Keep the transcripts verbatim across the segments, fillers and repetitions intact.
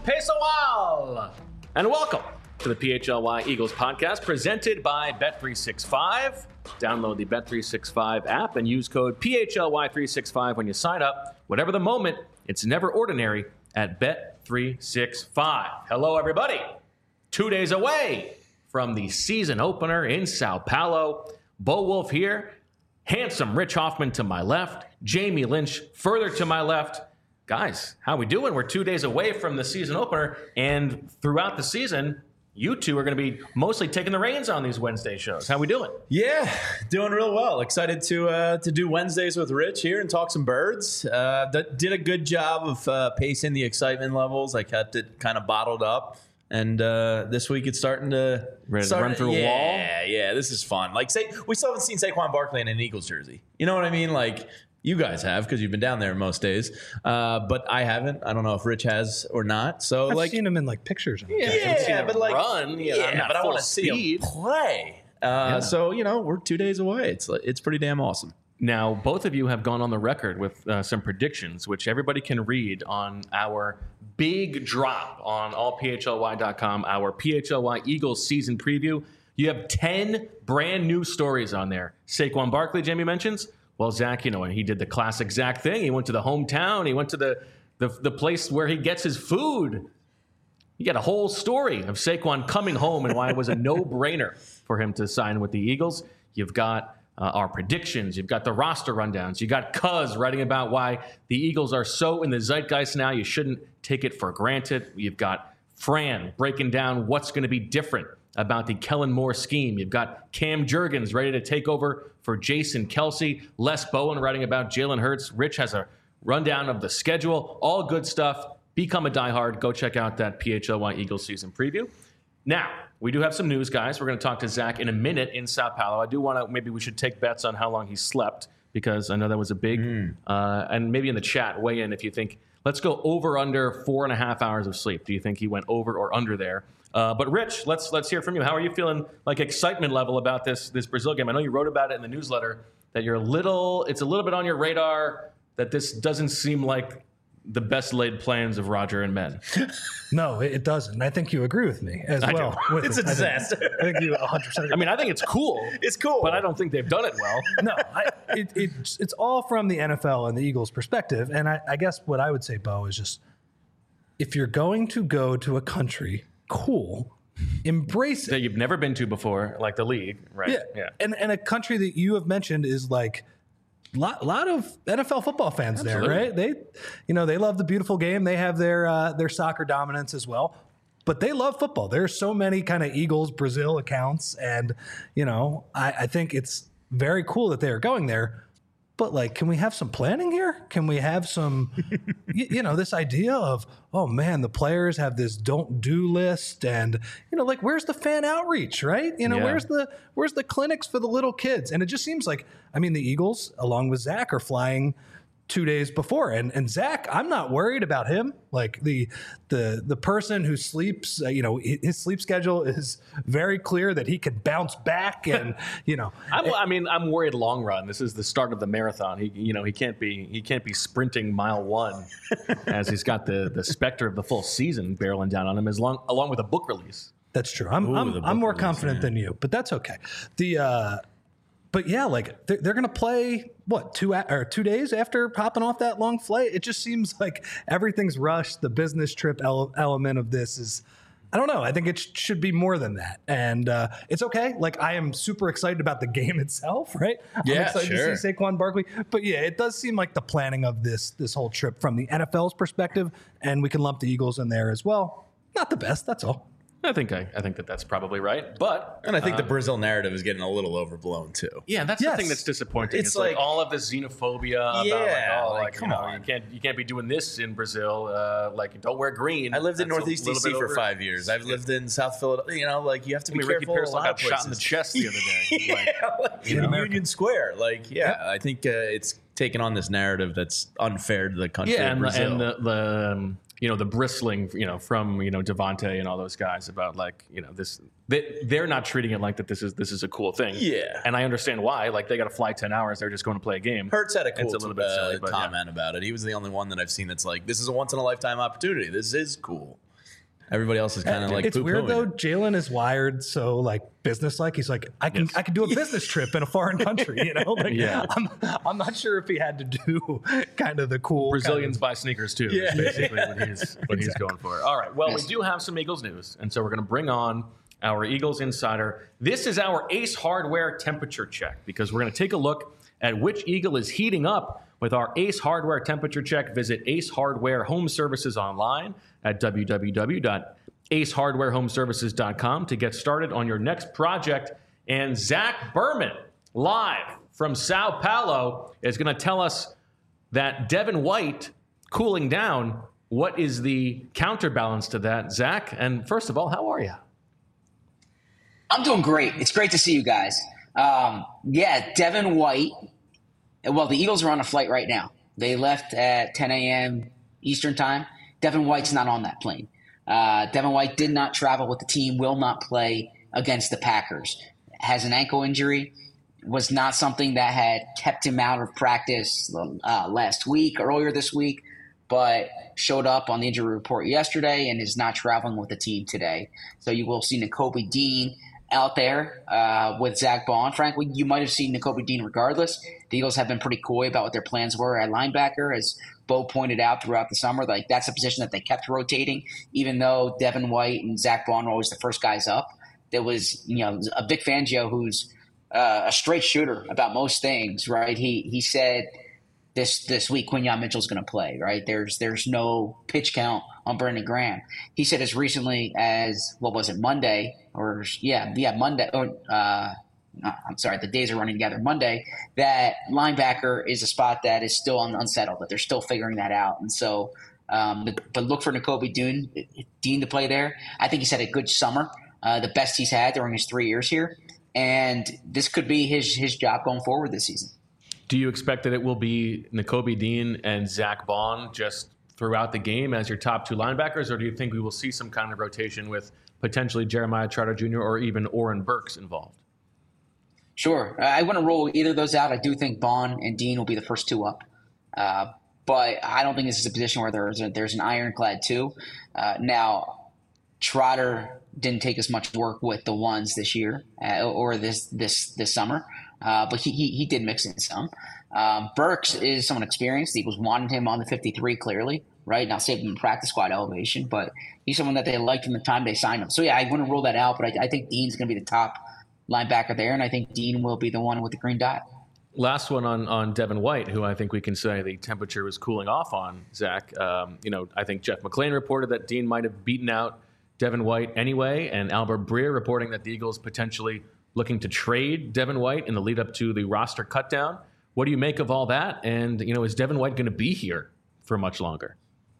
Pessoal, and welcome to the P H L Y Eagles podcast presented by Bet three sixty-five. Download the Bet three sixty-five app and use code P H L Y three sixty-five when you sign up. Whatever the moment, it's never ordinary at Bet three sixty-five. Hello, everybody. Two days away from the season opener in Sao Paulo. Bo Wolf here. Handsome Rich Hoffman to my left. Jamie Lynch further to my left. Guys, how we doing? We're two days away from the season opener, and throughout the season, you two are going to be mostly taking the reins on these Wednesday shows. How we doing? Yeah, doing real well. Excited to uh, to do Wednesdays with Rich here and talk some birds. Uh, d- did a good job of uh, pacing the excitement levels. I kept it kind of bottled up. And uh, this week it's starting to Ready to start, run through yeah, a wall. Yeah, yeah, this is fun. Like, say we still haven't seen Saquon Barkley in an Eagles jersey. You know what I mean? Like, you guys have because you've been down there most days, uh, but I haven't. I don't know if Rich has or not. So, I've like, seen him in like pictures. yeah, I've seen him but like, run. Yeah, yeah, not but I full want to see speed. him play. Uh, Yeah. So you know, we're two days away. It's it's pretty damn awesome. Now, both of you have gone on the record with uh, some predictions, which everybody can read on our big drop on all P H L Y dot com, our P H L Y Eagles season preview. You have ten brand new stories on there. Saquon Barkley, Jamie mentions. Well, Zach, you know, he did the classic Zach thing. He went to the hometown. He went to the, the, the place where he gets his food. You got a whole story of Saquon coming home and why it was a no-brainer for him to sign with the Eagles. You've got uh, our predictions. You've got the roster rundowns. You got Cuz writing about why the Eagles are so in the zeitgeist now you shouldn't take it for granted. You've got Fran breaking down what's going to be different about the Kellen Moore scheme. You've got Cam Jurgens ready to take over for Jason Kelsey. Les Bowen writing about Jalen Hurts. Rich has a rundown of the schedule. All good stuff. Become a diehard. Go check out that P H L Y Eagles season preview. Now, we do have some news, guys. We're going to talk to Zach in a minute in Sao Paulo. I do want to, maybe we should take bets on how long he slept, because I know that was a big, mm. uh, and maybe in the chat, weigh in if you think, let's go over under four and a half hours of sleep. Do you think he went over or under there? Uh, but Rich, let's let's hear from you. How are you feeling, like, excitement level about this this Brazil game? I know you wrote about it in the newsletter that you're a little, it's a little bit on your radar that this doesn't seem like the best laid plans of Roger and men. No, it doesn't. I think you agree with me as I well. do. With It's it. a disaster. I think, I think you one hundred percent agree. I mean, I think it's cool. It's cool, But I don't think they've done it well. No, I, it, it's, it's all from the N F L and the Eagles' perspective. And I, I guess what I would say, Bo, is just if you're going to go to a country, cool, embrace it. That you've never been to before, like the league, right? Yeah. yeah. And, and a country that you have mentioned is like, lot lot of N F L football fans Absolutely. there, right? They, you know, they love the beautiful game. They have their uh, their soccer dominance as well, but they love football. There's so many kind of Eagles Brazil accounts, and you know, I, I think it's very cool that they are going there. But like, can we have some planning here? Can we have some, you, you know, this idea of, oh man, the players have this don't do list, and you know, like, where's the fan outreach, right? You know, Yeah. where's the where's the clinics for the little kids? And it just seems like, I mean, the Eagles, along with Zach, are flying two days before, and and Zach, I'm not worried about him. Like the the the person who sleeps, uh, you know, his sleep schedule is very clear that he can bounce back, and you know, I'm, I mean, I'm worried long run. This is the start of the marathon. He, you know, he can't be he can't be sprinting mile one as he's got the the specter of the full season barreling down on him, as long along with a book release. That's true. I'm Ooh, I'm, the I'm more book release, confident yeah. than you, but that's okay. The uh, but yeah, like they're, they're going to play what two a- or two days after hopping off that long flight. It just seems like everything's rushed. The business trip ele- element of this is, I don't know. I think it sh- should be more than that, and uh, it's okay. Like, I am super excited about the game itself, right? I'm Yeah, excited sure. to see Saquon Barkley, but yeah, it does seem like the planning of this this whole trip from the N F L's perspective, and we can lump the Eagles in there as well. Not the best, that's all. I think I, I think that that's probably right, but And I think the Brazil narrative is getting a little overblown too. yeah, that's Yes. the thing that's disappointing. It's, It's like, like- all of this xenophobia about Yeah, like, oh, like, like, come you know, on. you can't you can't be doing this in Brazil. Uh, like, don't wear green. I lived in That's a Northeast D little C bit for over- five years. I've lived in South Philadelphia. You know, like, you have to I be mean, Ricky careful. Pearsall a lot got of shot in the places. chest the other day. Like, Yeah, like, In in America. Union Square. Like, yeah, I think uh, it's taken on this narrative that's unfair to the country yeah, of and, the, Brazil. and the, the um, you know the bristling you know from you know Devontae and all those guys about like you know this they they're not treating it like that this is this is a cool thing. Yeah. and I understand why. Like they got to fly ten hours. They're just going to play a game. Hurts had a cool It's a little bit uh, silly, but yeah. comment about it. He was the only one that I've seen that's like, this is a once in a lifetime opportunity. This is cool. Everybody else is kind of like it's weird though. it. Jalen is wired so like business like. He's like, I can Yes. I can do a business trip in a foreign country. You know, like Yeah. I'm I'm not sure if he had to do kind of the cool Brazilians kind buy sneakers too. Yeah. Is basically what he's what he's going for. All right. Well, we do have some Eagles news, and so we're going to bring on our Eagles insider. This is our Ace Hardware temperature check because we're going to take a look at which Eagle is heating up with our Ace Hardware temperature check. Visit Ace Hardware Home Services online at w w w dot ace hardware home services dot com to get started on your next project. And Zach Berman, live from Sao Paulo, is going to tell us that Devin White cooling down. What is the counterbalance to that, Zach? And first of all, how are you? I'm doing great. It's great to see you guys. Um, yeah, Devin White. Well, the Eagles are on a flight right now. They left at ten a.m. Eastern time. Devin White's not on that plane. Uh, Devin White did not travel with the team, will not play against the Packers. Has an ankle injury. Was not something that had kept him out of practice uh, last week, earlier this week, but showed up on the injury report yesterday and is not traveling with the team today. So you will see Nakobe Dean out there uh, with Zach Bond. Frankly, you might have seen Nakobe Dean regardless. The Eagles have been pretty coy about what their plans were at linebacker, as Bo pointed out throughout the summer. Like that's a position that they kept rotating, even though Devin White and Zach Bond were always the first guys up. There was, you know, a Vic Fangio who's uh, a straight shooter about most things, right? He he said this this week Quinyon Mitchell's going to play, right? There's there's no pitch count on Brandon Graham. He said as recently as, what was it, Monday or yeah yeah Monday or uh, I'm sorry, the days are running together. Monday, that linebacker is a spot that is still un- unsettled, that they're still figuring that out. And so, um, but, but look for Nakobe Dean, Dean to play there. I think he's had a good summer, uh, the best he's had during his three years here. And this could be his his job going forward this season. Do you expect that it will be Nakobe Dean and Zach Bond just throughout the game as your top two linebackers, or do you think we will see some kind of rotation with potentially Jeremiah Trotter Junior or even Oren Burks involved? Sure. I wouldn't rule either of those out. I do think Bond and Dean will be the first two up. Uh, but I don't think this is a position where there's, a, there's an ironclad two. Uh, now, Trotter didn't take as much work with the ones this year uh, or this this this summer, uh, but he, he he did mix in some. Um, Burks is someone experienced. The Eagles wanted him on the fifty-three clearly, right? Now saved him in practice squad elevation, but he's someone that they liked from the time they signed him. So, yeah, I wouldn't rule that out, but I, I think Dean's going to be the top linebacker there, and I think Dean will be the one with the green dot. Last one on, on Devin White, who I think we can say the temperature was cooling off on, Zach. Um, you know, I think Jeff McClain reported that Dean might have beaten out Devin White anyway, and Albert Breer reporting that the Eagles potentially looking to trade Devin White in the lead up to the roster cutdown. What do you make of all that? And, you know, is Devin White going to be here for much longer?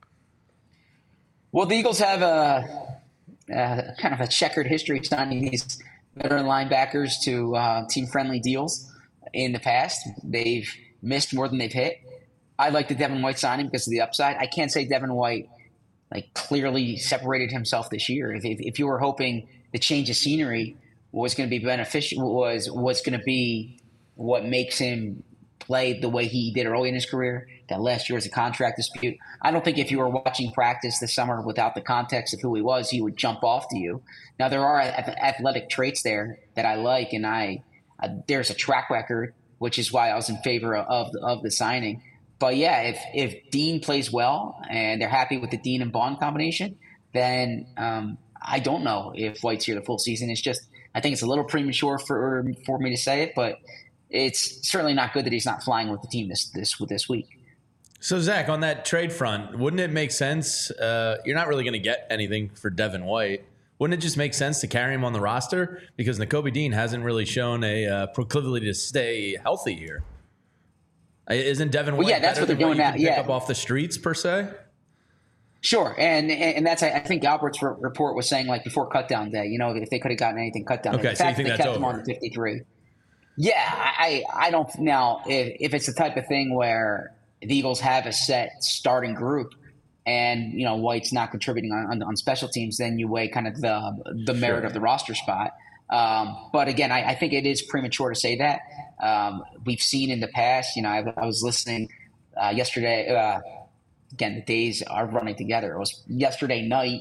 Well, the Eagles have a, a kind of a checkered history signing these veteran linebackers to uh, team-friendly deals in the past. They've missed more than they've hit. I like the Devin White signing because of the upside. I can't say Devin White like clearly separated himself this year. If, if, if you were hoping the change of scenery was going to be beneficial, was was going to be what makes him play the way he did early in his career, that last year was a contract dispute. I don't think if you were watching practice this summer without the context of who he was, he would jump off to you. Now, there are athletic traits there that I like, and I uh, there's a track record, which is why I was in favor of, of the signing. But, yeah, if, if Dean plays well and they're happy with the Dean and Bond combination, then um, I don't know if White's here the full season. It's just I think it's a little premature for for me to say it, but it's certainly not good that he's not flying with the team this this this week. So, Zach, on that trade front, wouldn't it make sense? Uh, you're not really going to get anything for Devin White. Wouldn't it just make sense to carry him on the roster? Because Nakobe Dean hasn't really shown a uh, proclivity to stay healthy here. Isn't Devin White well, yeah, that's better what they're than doing what you now. can pick Yeah. up off the streets, per se? Sure, and and that's I think Albert's re- report was saying like before cutdown day. You know, if they could have gotten anything cut down. Okay, day. The so you fact think that they that's kept him over? on the fifty-three. Yeah, I I don't now if if it's the type of thing where the Eagles have a set starting group, and you know White's not contributing on, on, on special teams, then you weigh kind of the the merit Sure. of the roster spot. Um, but again, I, I think it is premature to say that. Um, we've seen in the past. You know, I, I was listening uh, yesterday. Uh, again, the days are running together. It was yesterday night.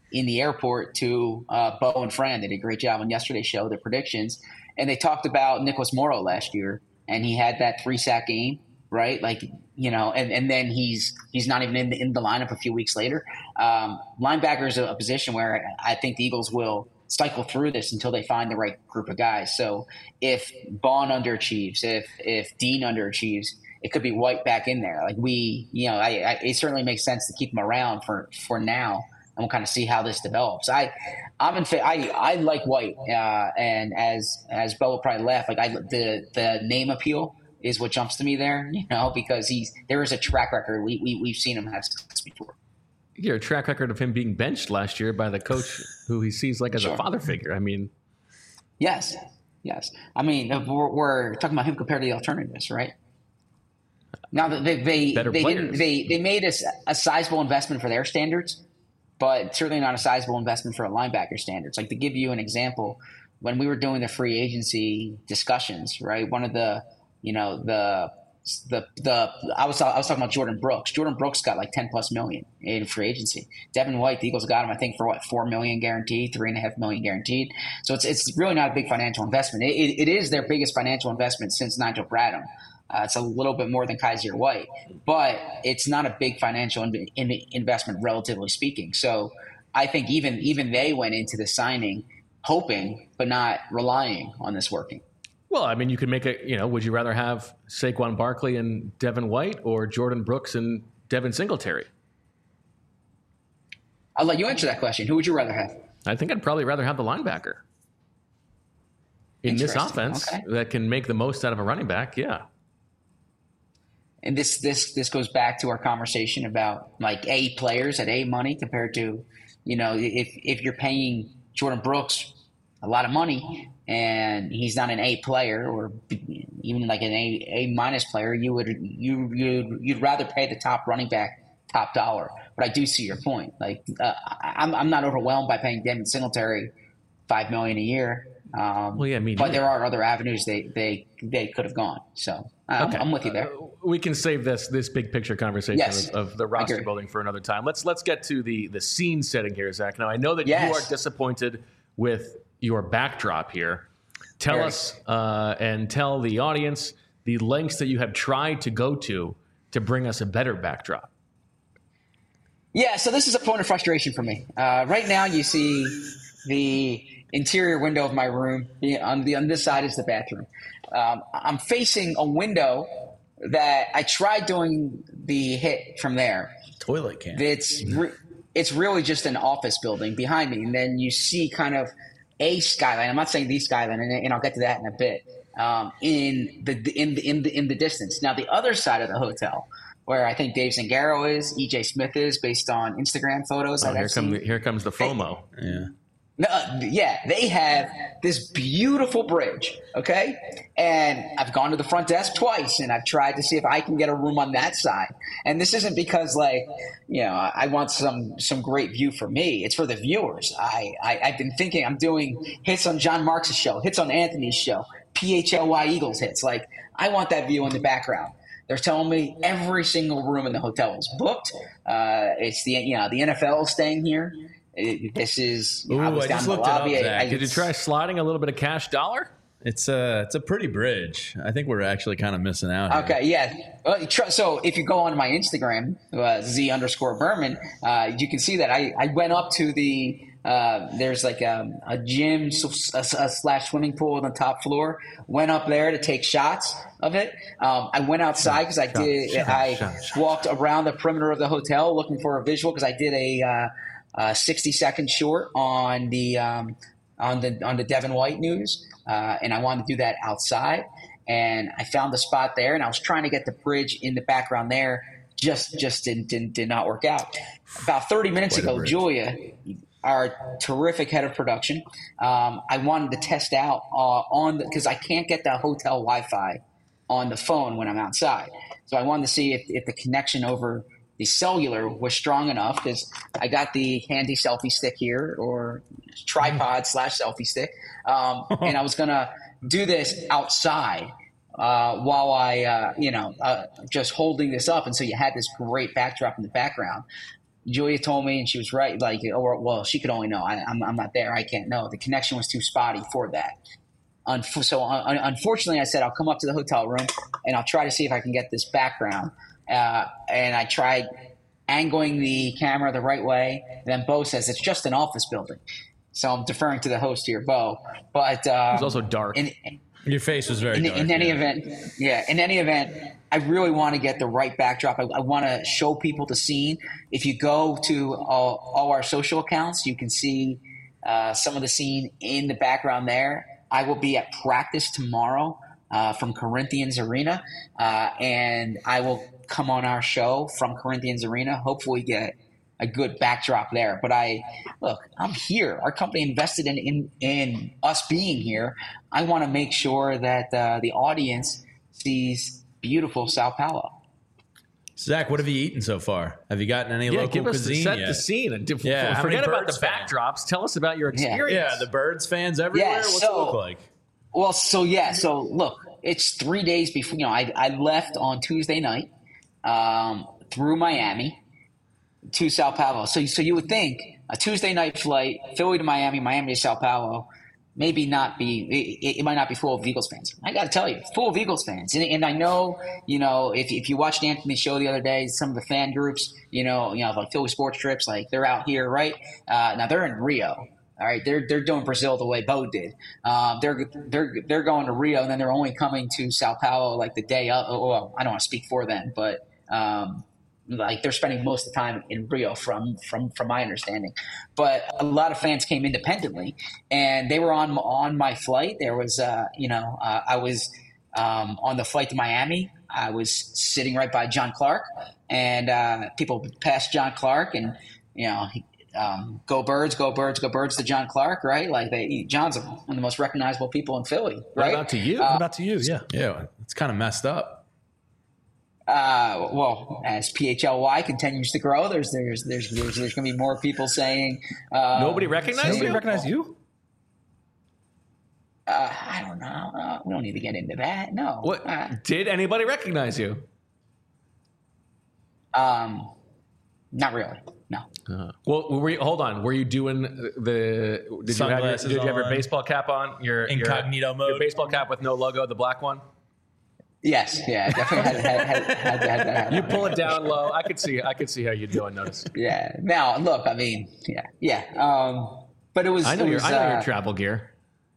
in the airport to uh, Bo and Fran. They did a great job on yesterday's show, their predictions. And they talked about Nicholas Morrow last year, and he had that three sack game, right? Like, you know, and, and then he's he's not even in the, in the lineup a few weeks later. Um, linebacker is a, a position where I think the Eagles will cycle through this until they find the right group of guys. So if Bond underachieves, if if Dean underachieves, it could be White back in there. Like we, you know, I, I, it certainly makes sense to keep him around for, for now, and we'll kind of see how this develops. I, I'm in. Fa- I I like White, uh, and as as Bo will probably laugh, like I the the name appeal is what jumps to me there, you know, because he's there is a track record. We we we've seen him have success before. Yeah, a track record of him being benched last year by the coach who he sees like as Sure. a father figure. I mean, yes, yes. I mean, we're, we're talking about him compared to the alternatives, right? Now that they they Better they players. didn't they they made a, a sizable investment for their standards, but certainly not a sizable investment for a linebacker standards. Like to give you an example, when we were doing the free agency discussions, right? One of the you know the the the I was I was talking about Jordan Brooks. Jordan Brooks got like ten plus million in free agency. Devin White, the Eagles got him, I think, for what four million guaranteed, three and a half million guaranteed. So it's it's really not a big financial investment. It, it, it is their biggest financial investment since Nigel Bradham. Uh, it's a little bit more than Kaiser White, but it's not a big financial in, in, investment, relatively speaking. So I think even even they went into the signing hoping, but not relying on this working. well, I mean, you could make a, you know, would you rather have Saquon Barkley and Devin White or Jordan Brooks and Devin Singletary? I'll let you answer that question. Who would you rather have? I think I'd probably rather have the linebacker in this Interesting. offense Okay. that can make the most out of a running back. Yeah. And this this this goes back to our conversation about like A players at A money compared to, you know, if if you're paying Jordan Brooks a lot of money and he's not an A player or even like an A A minus player, you would you you'd, you'd rather pay the top running back top dollar. But I do see your point. Like uh, I'm I'm not overwhelmed by paying Devin Singletary five million a year. Um, Well, yeah, me but neither. there are other avenues they they they could have gone. So I'm, Okay. I'm with you there. Uh, we can save this this big picture conversation Yes. of, of the roster agree. building for another time. Let's let's get to the the scene setting here, Zach. Now I know that Yes. you are disappointed with your backdrop here. Tell Very. us uh, and tell the audience the lengths that you have tried to go to to bring us a better backdrop. Yeah, so this is a point of frustration for me. Uh, right now, you see the interior window of my room. Yeah, on the on this side is the bathroom. Um, I'm facing a window that I tried doing the hit from there. Toilet can. It's re- it's really just an office building behind me, and then you see kind of a skyline. I'm not saying the skyline, and, and I'll get to that in a bit. Um, in the in the in the in the distance. Now, the other side of the hotel, where I think Dave Zangaro is, E J Smith is, based on Instagram photos. Oh, that here I've come seen. the, here comes the FOMO. Yeah. No, uh, yeah, they have this beautiful bridge, okay? And I've gone to the front desk twice, and I've tried to see if I can get a room on that side. And this isn't because, like, you know, I want some some great view for me. It's for the viewers. I, I, I've been thinking I'm doing hits on John Marks' show, hits on Anthony's show, P H L Y Eagles hits. Like, I want that view in the background. They're telling me every single room in the hotel is booked. Uh, it's the, you know, the N F L is staying here. It, this is. You know, Ooh, I was I down just in the looked it up, lobby. I- Zach. I- Did you try sliding a little bit of cash dollar? It's a it's a pretty bridge. I think we're actually kind of missing out here. Okay, yeah. Well, tr- So if you go on my Instagram, uh, Z underscore Berman, uh, you can see that I, I went up to the. Uh, there's like a, a gym s- a, a slash swimming pool on the top floor. Went up there to take shots of it. Um, I went outside because I did. shot, I shot, shot. walked around the perimeter of the hotel looking for a visual because I did a, uh, a sixty second short on the um, on the on the Devin White news, uh, and I wanted to do that outside. And I found the spot there, and I was trying to get the bridge in the background there. Just just didn't didn't did not work out. About thirty minutes Quite a ago, bridge. Julia, our terrific head of production, um, I wanted to test out uh, on because I can't get the hotel Wi-Fi on the phone when I'm outside. So I wanted to see if, if the connection over the cellular was strong enough because I got the handy selfie stick here or tripod slash selfie stick. Um, and I was going to do this outside uh, while I, uh, you know, uh, just holding this up. And so you had this great backdrop in the background. Julia told me, and she was right. Like, or well, she could only know. I, I'm, I'm not there. I can't know. The connection was too spotty for that. Unf- so un- unfortunately, I said I'll come up to the hotel room and I'll try to see if I can get this background. Uh, and I tried angling the camera the right way. And then Bo says it's just an office building. So I'm deferring to the host here, Bo. But um, It's also dark. In, Your face was very in, dark. in any yeah. event, yeah. In any event, I really want to get the right backdrop. I, I want to show people the scene. If you go to all, all our social accounts, you can see uh, some of the scene in the background there. I will be at practice tomorrow uh, from Corinthians Arena, uh, and I will come on our show from Corinthians Arena. Hopefully, get a good backdrop there. But I look, I'm here. Our company invested in in, in us being here. I want to make sure that uh, the audience sees beautiful Sao Paulo. Zach, what have you eaten so far? Have you gotten any yeah, local give us cuisine set yet? the scene. And diff- Yeah, how forget many about the Birds fans? backdrops. Tell us about your Yeah. experience. Yeah, the Birds fans everywhere. Yeah, What's so- it look like? Well, so yeah, so look, it's three days before. You know, I I left on Tuesday night um, through Miami to Sao Paulo. So so you would think a Tuesday night flight, Philly to Miami, Miami to Sao Paulo, maybe not be it, it might not be full of Eagles fans. I got to tell you, full of Eagles fans. And, and I know, you know, if if you watched Anthony's show the other day, some of the fan groups, you know, you know, like Philly Sports Trips, like they're out here, right? Uh, now they're in Rio. All right, they're they're doing Brazil the way Bo did. Um, they're they're they're going to Rio, and then they're only coming to Sao Paulo like the day of. Well, I don't want to speak for them, but um, like they're spending most of the time in Rio, from from from my understanding. But a lot of fans came independently, and they were on on my flight. There was, uh, you know, uh, I was um, on the flight to Miami. I was sitting right by John Clark, and uh, people passed John Clark, and you know. He, Um, go Birds, go Birds, go Birds to John Clark, right? Like they, John's one of the most recognizable people in Philly, What right? about to you? What about to you? Yeah. Yeah, it's kind of messed up. Uh, well, as P H L Y continues to grow, there's there's there's there's, there's going to be more people saying uh, Nobody recognized Nobody you? recognize you? Uh, I don't know. Uh, we don't need to get into that. No. What Uh, did anybody recognize you? um, not really. No. Uh, well, were you, hold on. Were you doing the? Did you have your, Sunglasses did you have your on. baseball cap on? Your Incognito your, mode. Your baseball cap with no logo, the black one. Yes. Yeah. Definitely had, had, had, had, had that happen. You pull it down low. I could see. I could see how you'd go unnoticed. Yeah. Now, look. I mean, yeah, yeah. Um, but it was. I know it your. was, I know uh, your travel gear.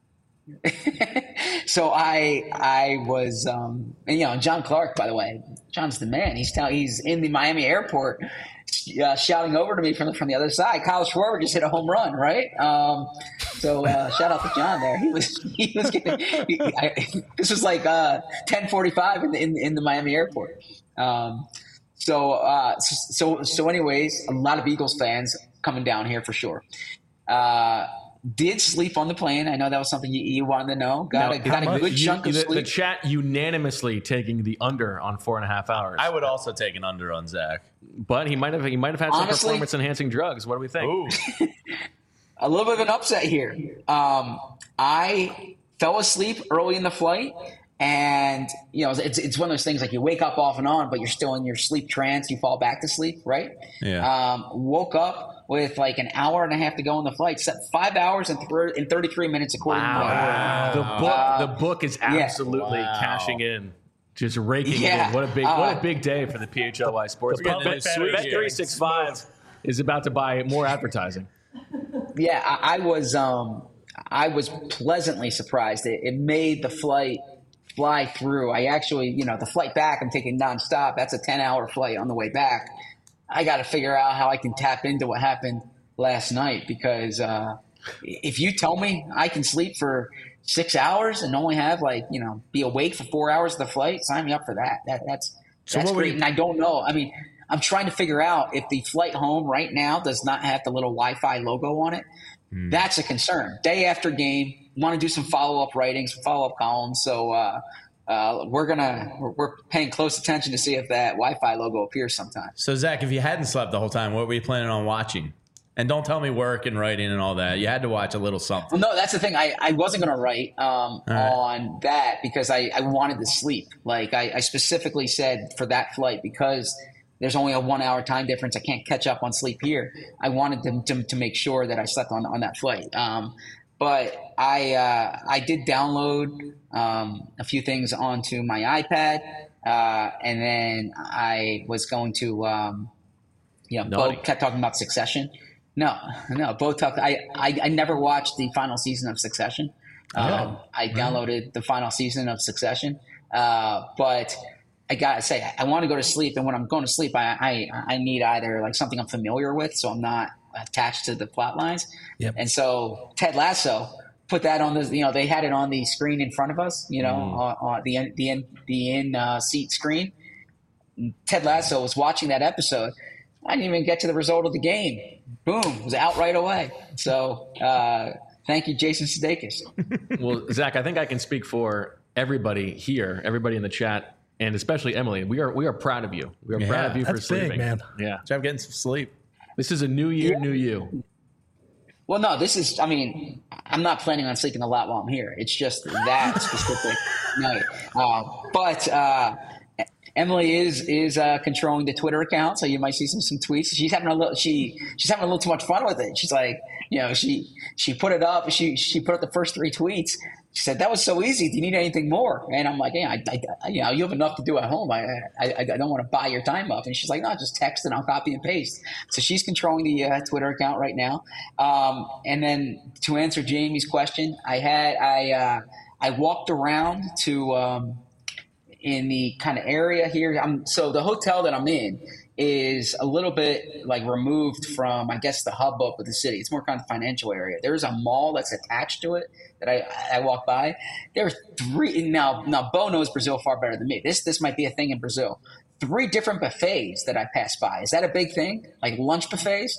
So I I was um and, you know, John Clark, by the way, John's the man. He's tell, he's in the Miami airport uh, shouting over to me from the, from the other side. Kyle Schwarber just hit a home run, right? Um, so uh, shout out to John there. He was he was getting, he, I, this was like uh, ten forty-five in the, in, in the Miami airport. Um, so uh, so so anyways, a lot of Eagles fans coming down here for sure. Uh, Did sleep on the plane. I know that was something you, you wanted to know. Got Now, a, got how a good much- you- chunk of the, sleep. the chat unanimously taking the under on four and a half hours. I would also take an under on Zach. but he might have. He might have had some Honestly- performance enhancing drugs. What do we think? Ooh, A little bit of an upset here. Um, I fell asleep early in the flight, and you know it's it's one of those things like you wake up off and on, but you're still in your sleep trance. You fall back to sleep, right? Yeah. Um, woke up with like an hour and a half to go on the flight. Slept five hours and, th- and thirty-three minutes according Wow. to my The book. Uh, the book is yeah. absolutely Wow. cashing in. Just raking it Yeah. in. What a big, what Uh, a big day for the P H L Y Sports. We're getting Bet into the sweet three sixty-five is about to buy more advertising. Yeah, I, I was um, I was pleasantly surprised. It, it made the flight fly through. I actually, you know, the flight back I'm taking nonstop. That's a ten hour flight on the way back. I got to figure out how I can tap into what happened last night because uh, if you tell me I can sleep for six hours and only have like you know be awake for four hours of the flight, sign me up for that. That that's So that's what were great. you- And I don't know. I mean, I'm trying to figure out if the flight home right now does not have the little Wi-Fi logo on it. Hmm. That's a concern. Day after game, want to do some follow-up writing, some follow-up columns. So uh, uh, we're gonna we're, we're paying close attention to see if that Wi-Fi logo appears sometime. So Zach, if you hadn't slept the whole time, what were you planning on watching? And don't tell me work and writing and all that. You had to watch a little something. Well, no, that's the thing. I, I wasn't going to write um, right. on that because I, I wanted to sleep. Like I, I specifically said for that flight because there's only a one hour time difference. I can't catch up on sleep here. I wanted them to, to make sure that I slept on, on that flight. Um, but I, uh, I did download um, a few things onto my iPad. Uh, and then I was going to, um, you know, Naughty. Bo kept talking about Succession. No, no, Bo talked. I, I, I never watched the final season of Succession. Um, I downloaded the final season of Succession, uh, but I gotta say, I want to go to sleep, and when I'm going to sleep, I, I I need either like something I'm familiar with, so I'm not attached to the plot lines. Yep. And so Ted Lasso put that on the, you know, they had it on the screen in front of us, you know, Mm. on, on the in, the in, the in uh, seat screen. Ted Lasso was watching that episode. I didn't even get to the result of the game. Boom, it was out right away. So. Uh, Thank you, Jason Sudeikis. Well, Zach, I think I can speak for everybody here, everybody in the chat, and especially Emily. We are we are proud of you. We are Yeah, proud of you for that's big, sleeping. man. Yeah. Job getting some sleep. This is a new year, Yeah. new you. Well, no, this is, I mean, I'm not planning on sleeping a lot while I'm here. It's just that specific night. Uh, but uh, Emily is is uh, controlling the Twitter account, so you might see some some tweets. She's having a little she she's having a little too much fun with it. She's like, you know, she she put it up. She she put up the first three tweets. She said, "That was so easy. Do you need anything more?" And I'm like, "Yeah, I, I, you know, you have enough to do at home. I I, I don't want to buy your time up." And she's like, "No, just text and I'll copy and paste." So she's controlling the uh, Twitter account right now. Um, and then to answer Jamie's question, I had I uh, I walked around to. Um, in the kind of area here. I'm, so the hotel that I'm in is a little bit like removed from, I guess, the hub up of the city. It's more kind of financial area. There's a mall that's attached to it that I, I walk by. There are three, now, now Bo knows Brazil far better than me. This, this might be a thing in Brazil. Three different buffets that I pass by. Is that a big thing? Like lunch buffets?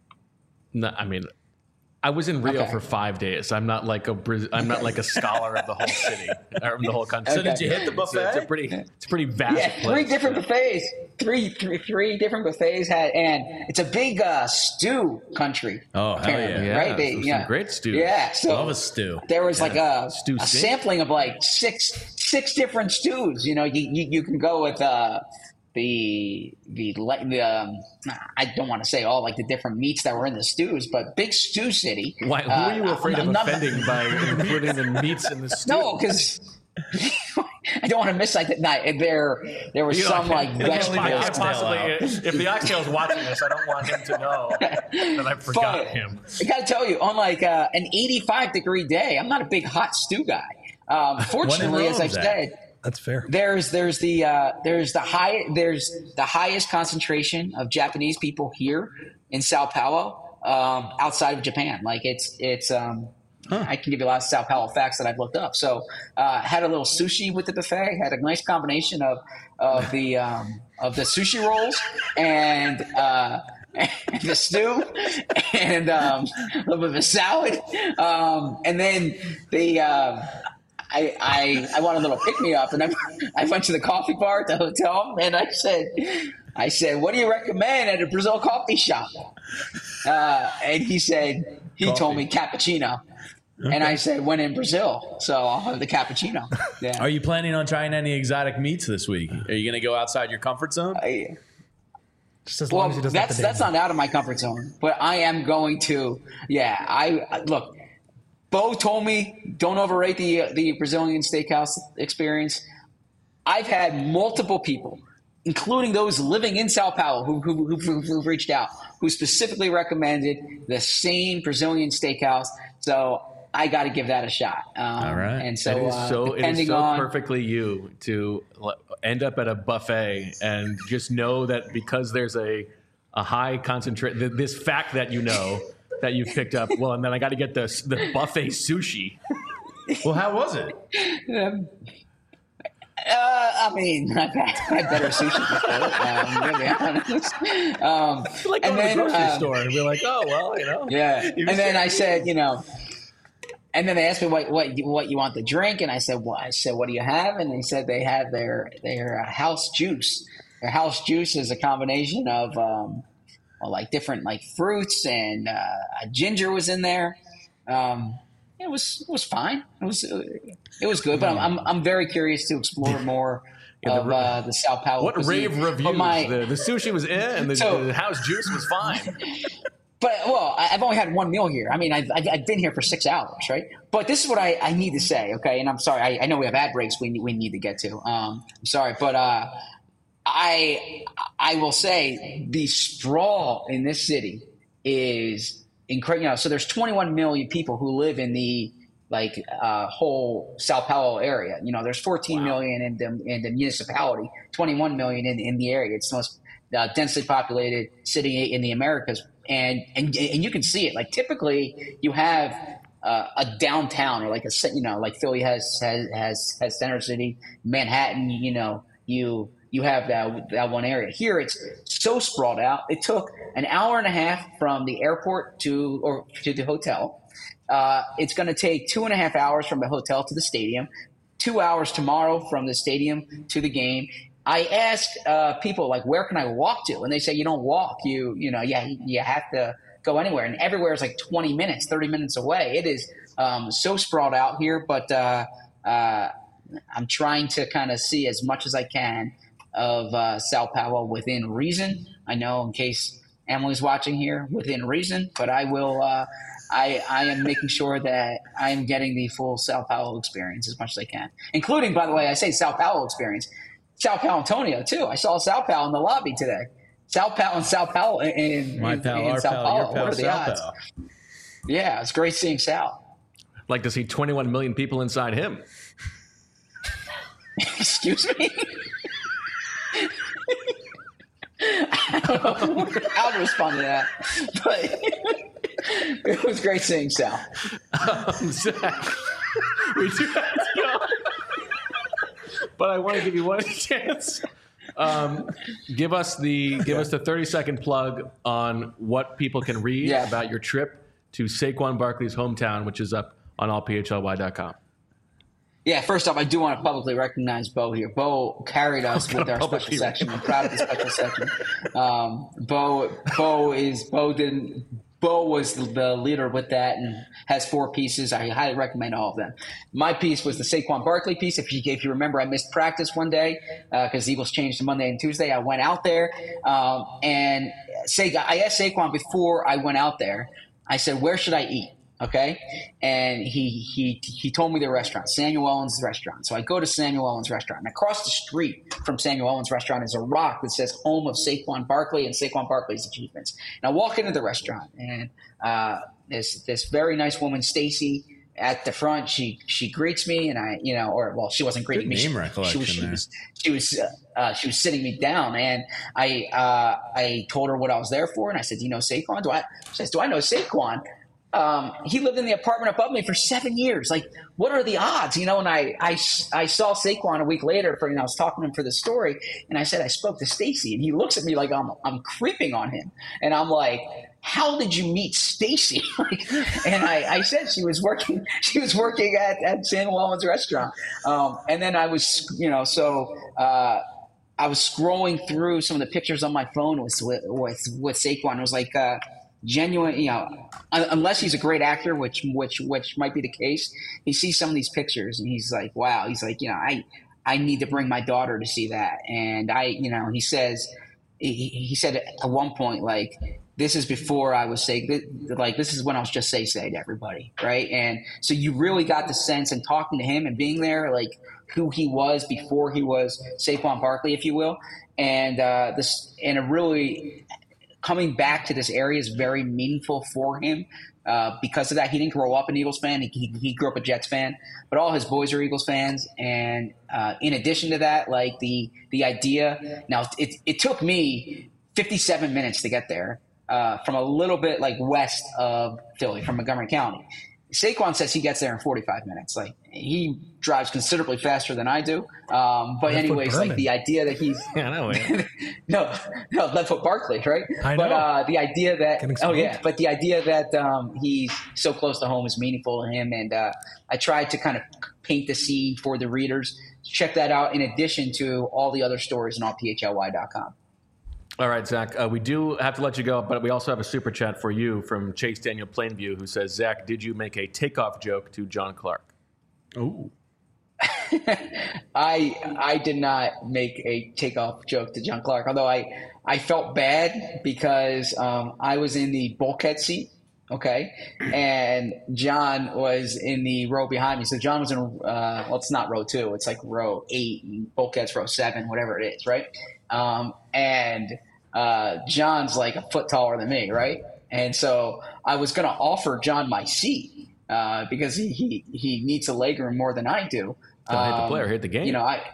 No, I mean, I was in Rio Okay. for five days. I'm not like a Braz- I'm not like a scholar of the whole city or the whole country. So did you hit the It's a, it's a buffet? pretty it's a pretty vast Yeah, place. three different Yeah. buffets. Three, three, three different buffets had, and it's a big uh, stew country. Oh, hell apparently, yeah. Yeah, right? They, some yeah, great stews. Yeah, so Love a stew. there was like a, Stew a sink. sampling of like six six different stews. You know, you you, you can go with uh, the the le- the um, I don't want to say all like the different meats that were in the stews, but big stew city. Why? Who Uh, are you afraid I'm of not- offending by including the meats in the stew? No, because. I don't want to miss like that night. There, there was You know, some I like can't- I can't vegetables. believe I can't oxtail possibly. out. If the oxtail's watching this, I don't want him to know that I forgot But him. I got to tell you, on like uh, an eighty-five degree day, I'm not a big hot stew guy. Um, fortunately, as Rome, I've Zach? said, That's fair. there's there's the uh, there's the high there's the highest concentration of Japanese people here in Sao Paulo, um, outside of Japan. Like it's it's. Um, I can give you a lot of Sao Paulo facts that I've looked up. So, uh, had a little sushi with the buffet. Had a nice combination of of the um, of the sushi rolls and uh, and the stew and um, a little bit of a salad. Um, and then the um, I, I I want a little pick me up, and I I went to the coffee bar at the hotel, and I said I said, "What do you recommend at a Brazil coffee shop?" Uh, and he said he told me cappuccino. And I said, when in Brazil, so I'll have the cappuccino. Yeah. Are you planning on trying any exotic meats this week? Are you going to go outside your comfort zone? I- Just as well, long as he doesn't have that's to that's dance. not out of my comfort zone, but I am going to. Yeah, I look. Bo told me don't overrate the the Brazilian steakhouse experience. I've had multiple people, including those living in Sao Paulo, who who who who've reached out, who specifically recommended the same Brazilian steakhouse. So I got to give that a shot. Um, All right. And so, It is uh, so it is depending so on perfectly you to l- end up at a buffet and just know that because there's a a high concentration, th- this fact that you know that you've picked up. Well, and then I got to get the the buffet sushi. Well, how was it? Um, uh, I mean, I've had, I've had better sushi before. Um, to be honest. Um, Like and going to then, the grocery um, store and be like, oh well, you know. yeah. You And then just- I said, you know, and then they asked me what what you, what you want to drink, and I said, well, I said, what do you have? And they said they have their their uh, house juice. Their house juice is a combination of um, well, like different like fruits, and uh, ginger was in there. Um, it was it was fine. It was it was good, but I'm I'm, I'm very curious to explore more Yeah, the of ra- uh, the Sao Paulo What cuisine. rave But reviews? my- the, the sushi was eh, and the, So- the house juice was fine. But well, I- I've only had one meal here. I mean, I've, I've I've been here for six hours, right? But this is what I, I need to say, okay? And I'm sorry, I, I know we have ad breaks we need, we need to get to. Um, I'm sorry, but uh, I I will say the sprawl in this city is incredible. You know, so there's twenty-one million people who live in the like uh, whole Sao Paulo area. You know, there's fourteen Wow. million in the in the municipality, twenty-one million in in the area. It's the most uh, densely populated city in the Americas, and and and you can see it. Like typically, you have uh, a downtown or like a ci- you know like Philly has has has, has Center City, Manhattan. You know, you you have that that one area. Here, it's so sprawled out. It took an hour and a half from the airport to or to the hotel. Uh, it's going to take two and a half hours from the hotel to the stadium, two hours tomorrow from the stadium to the game. I asked uh, people like, where can I walk to? And they say, you don't walk. You, you know, yeah, you have to go anywhere. And everywhere is like twenty minutes, thirty minutes away. It is um, so sprawled out here, but uh, uh, I'm trying to kind of see as much as I can of uh, Sao Paulo within reason. I know in case Emily's watching here, within reason, but I will, uh, I, I am making sure that I am getting the full Sao Paulo experience as much as I can, including, by the way, I say Sao Paulo experience, Sao Paulo Antonio too. I saw Sao Paulo in the lobby today. Sao Paulo and Sao Paulo in, My in, pal, in our Sao pal, Paulo. your pal, What are the Sao odds? Pal. Yeah, it's great seeing Sal. Like to see twenty-one million people inside him. Excuse me? I don't know how to respond to that, but it was great seeing Sal. Um, Zach, we do have to go. But I want to give you one chance. Um, give us the give us the thirty second plug on what people can read Yeah. about your trip to Saquon Barkley's hometown, which is up on all P H L Y dot com. Yeah, first off, I do want to publicly recognize Bo here. Bo carried us Oh, with our publicly special section. I'm proud of the special section. Um, Bo, Bo is Bo didn't. Bo was the leader with that and has four pieces. I highly recommend all of them. My piece was the Saquon Barkley piece. If you if you remember, I missed practice one day because uh, Eagles changed to Monday and Tuesday. I went out there um, and say I asked Saquon before I went out there. I said, "Where should I eat?" Okay, and he he he told me the restaurant, Samuel Owens' restaurant. So I go to Samuel Owens' restaurant, and across the street from Samuel Owens' restaurant is a rock that says "Home of Saquon Barkley" and Saquon Barkley's achievements. And I walk into the restaurant, and uh, this this very nice woman, Stacy, at the front. She she greets me, and I you know, or well, she wasn't greeting Good me. name She, recollection she was she there. was she was uh, uh, she was sitting me down, and I uh, I told her what I was there for, and I said, "Do you know Saquon?" Do I? She says, "Do I know Saquon?" Um, he lived in the apartment above me for seven years. Like, what are the odds? You know, and I, I, I saw Saquon a week later for, you know, I was talking to him for the story, and I said, I spoke to Stacy, and he looks at me like I'm, I'm creeping on him. And I'm like, how did you meet Stacy? Like, and I, I said she was working, she was working at, at Samuel Owens' restaurant. Um, and then I was, you know, so, uh, I was scrolling through some of the pictures on my phone with, with, with, with Saquon. It was like, uh, genuine, you know, un- unless he's a great actor, which which which might be the case. He sees some of these pictures and he's like, wow. He's like, you know, I I need to bring my daughter to see that. And I, you know, he says, he, he said at one point, like, this is before I was say, like, this is when I was just say say to everybody, right? And so you really got the sense in talking to him and being there, like who he was before he was Saquon Barkley, if you will, and uh, this and a really. Coming back to this area is very meaningful for him uh, because of that. He didn't grow up an Eagles fan. He, he, he grew up a Jets fan, but all his boys are Eagles fans. And uh, in addition to that, like the the idea now, it, it took me fifty-seven minutes to get there uh, from a little bit like west of Philly, from Montgomery County. Saquon says he gets there in forty-five minutes. Like he drives considerably faster than I do. Um, but Left anyways, foot like Berman. the idea that he's Yeah, I know. man. no, no, left foot Barkley, right? I But know. uh, the idea that Can oh explain. yeah, but the idea that um, he's so close to home is meaningful to him, and uh, I tried to kind of paint the scene for the readers. Check that out in addition to all the other stories on all P H L Y dot com. All right, Zach, uh, we do have to let you go, but we also have a super chat for you from Chase Daniel Plainview, who says, Zach, did you make a takeoff joke to John Clark? Ooh. I I did not make a takeoff joke to John Clark, although I I felt bad because um, I was in the bulkhead seat, okay, and John was in the row behind me. So John was in uh, well, it's not row two, it's like row eight, and bulkhead's row seven, whatever it is, right? Um, and uh, John's like a foot taller than me, right? And so I was going to offer John my seat uh, because he, he he needs a legroom more than I do. Don't hit the Um, player, hit the game. You know, I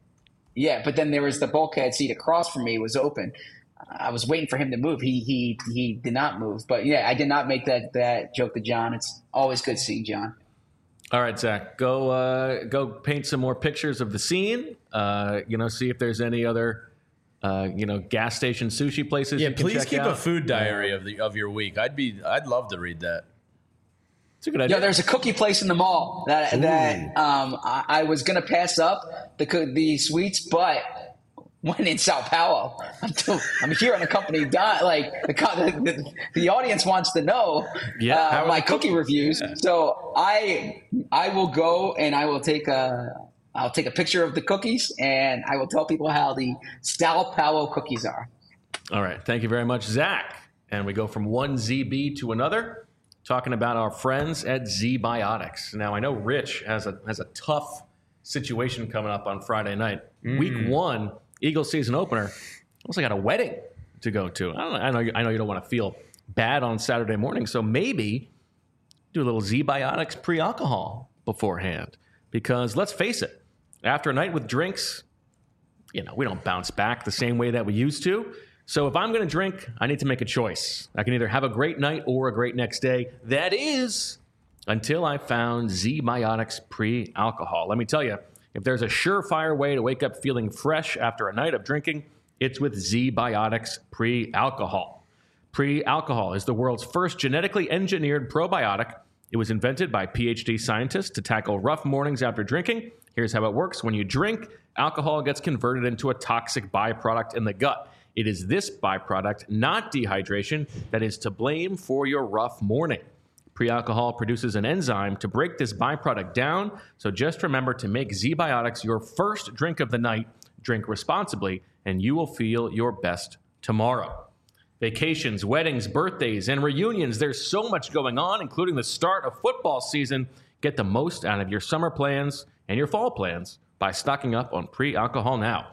yeah, but then there was the bulkhead seat across from me was open. I was waiting for him to move. He he he did not move. But yeah, I did not make that that joke to John. It's always good seeing John. All right, Zach, go uh, go paint some more pictures of the scene. Uh, you know, see if there's any other uh, you know gas station sushi places. Yeah, you can please check keep out. a food diary of the of your week. I'd be I'd love to read that. It's a good idea. Yeah, there's a cookie place in the mall that that um, I, I was gonna pass up the co- the sweets, but when in Sao Paulo, I'm, still, I'm here on a company dime. Like the, co- the the audience wants to know Yeah, uh, how are my the cookie cookies? reviews. Yeah. So I I will go and I will take a I'll take a picture of the cookies and I will tell people how the Sao Paulo cookies are. All right. Thank you very much, Zach. And we go from one Z B to another, talking about our friends at Z-Biotics. Now, I know Rich has a has a tough situation coming up on Friday night. Mm. Week one, Eagles season opener. Also got a wedding to go to. I, don't know, I know you, I know you don't want to feel bad on Saturday morning, so maybe do a little Z-Biotics pre-alcohol beforehand. Because let's face it, after a night with drinks, you know, we don't bounce back the same way that we used to. So if I'm going to drink, I need to make a choice. I can either have a great night or a great next day. That is until I found Z-Biotics pre-alcohol. Let me tell you, if there's a surefire way to wake up feeling fresh after a night of drinking, it's with Z-Biotics pre-alcohol. Pre-alcohol is the world's first genetically engineered probiotic. It was invented by PhD scientists to tackle rough mornings after drinking. Here's how it works. When you drink, alcohol gets converted into a toxic byproduct in the gut. It is this byproduct, not dehydration, that is to blame for your rough morning. Pre-alcohol produces an enzyme to break this byproduct down, so just remember to make Z-Biotics your first drink of the night. Drink responsibly, and you will feel your best tomorrow. Vacations, weddings, birthdays, and reunions. There's so much going on, including the start of football season. Get the most out of your summer plans and your fall plans by stocking up on pre-alcohol now.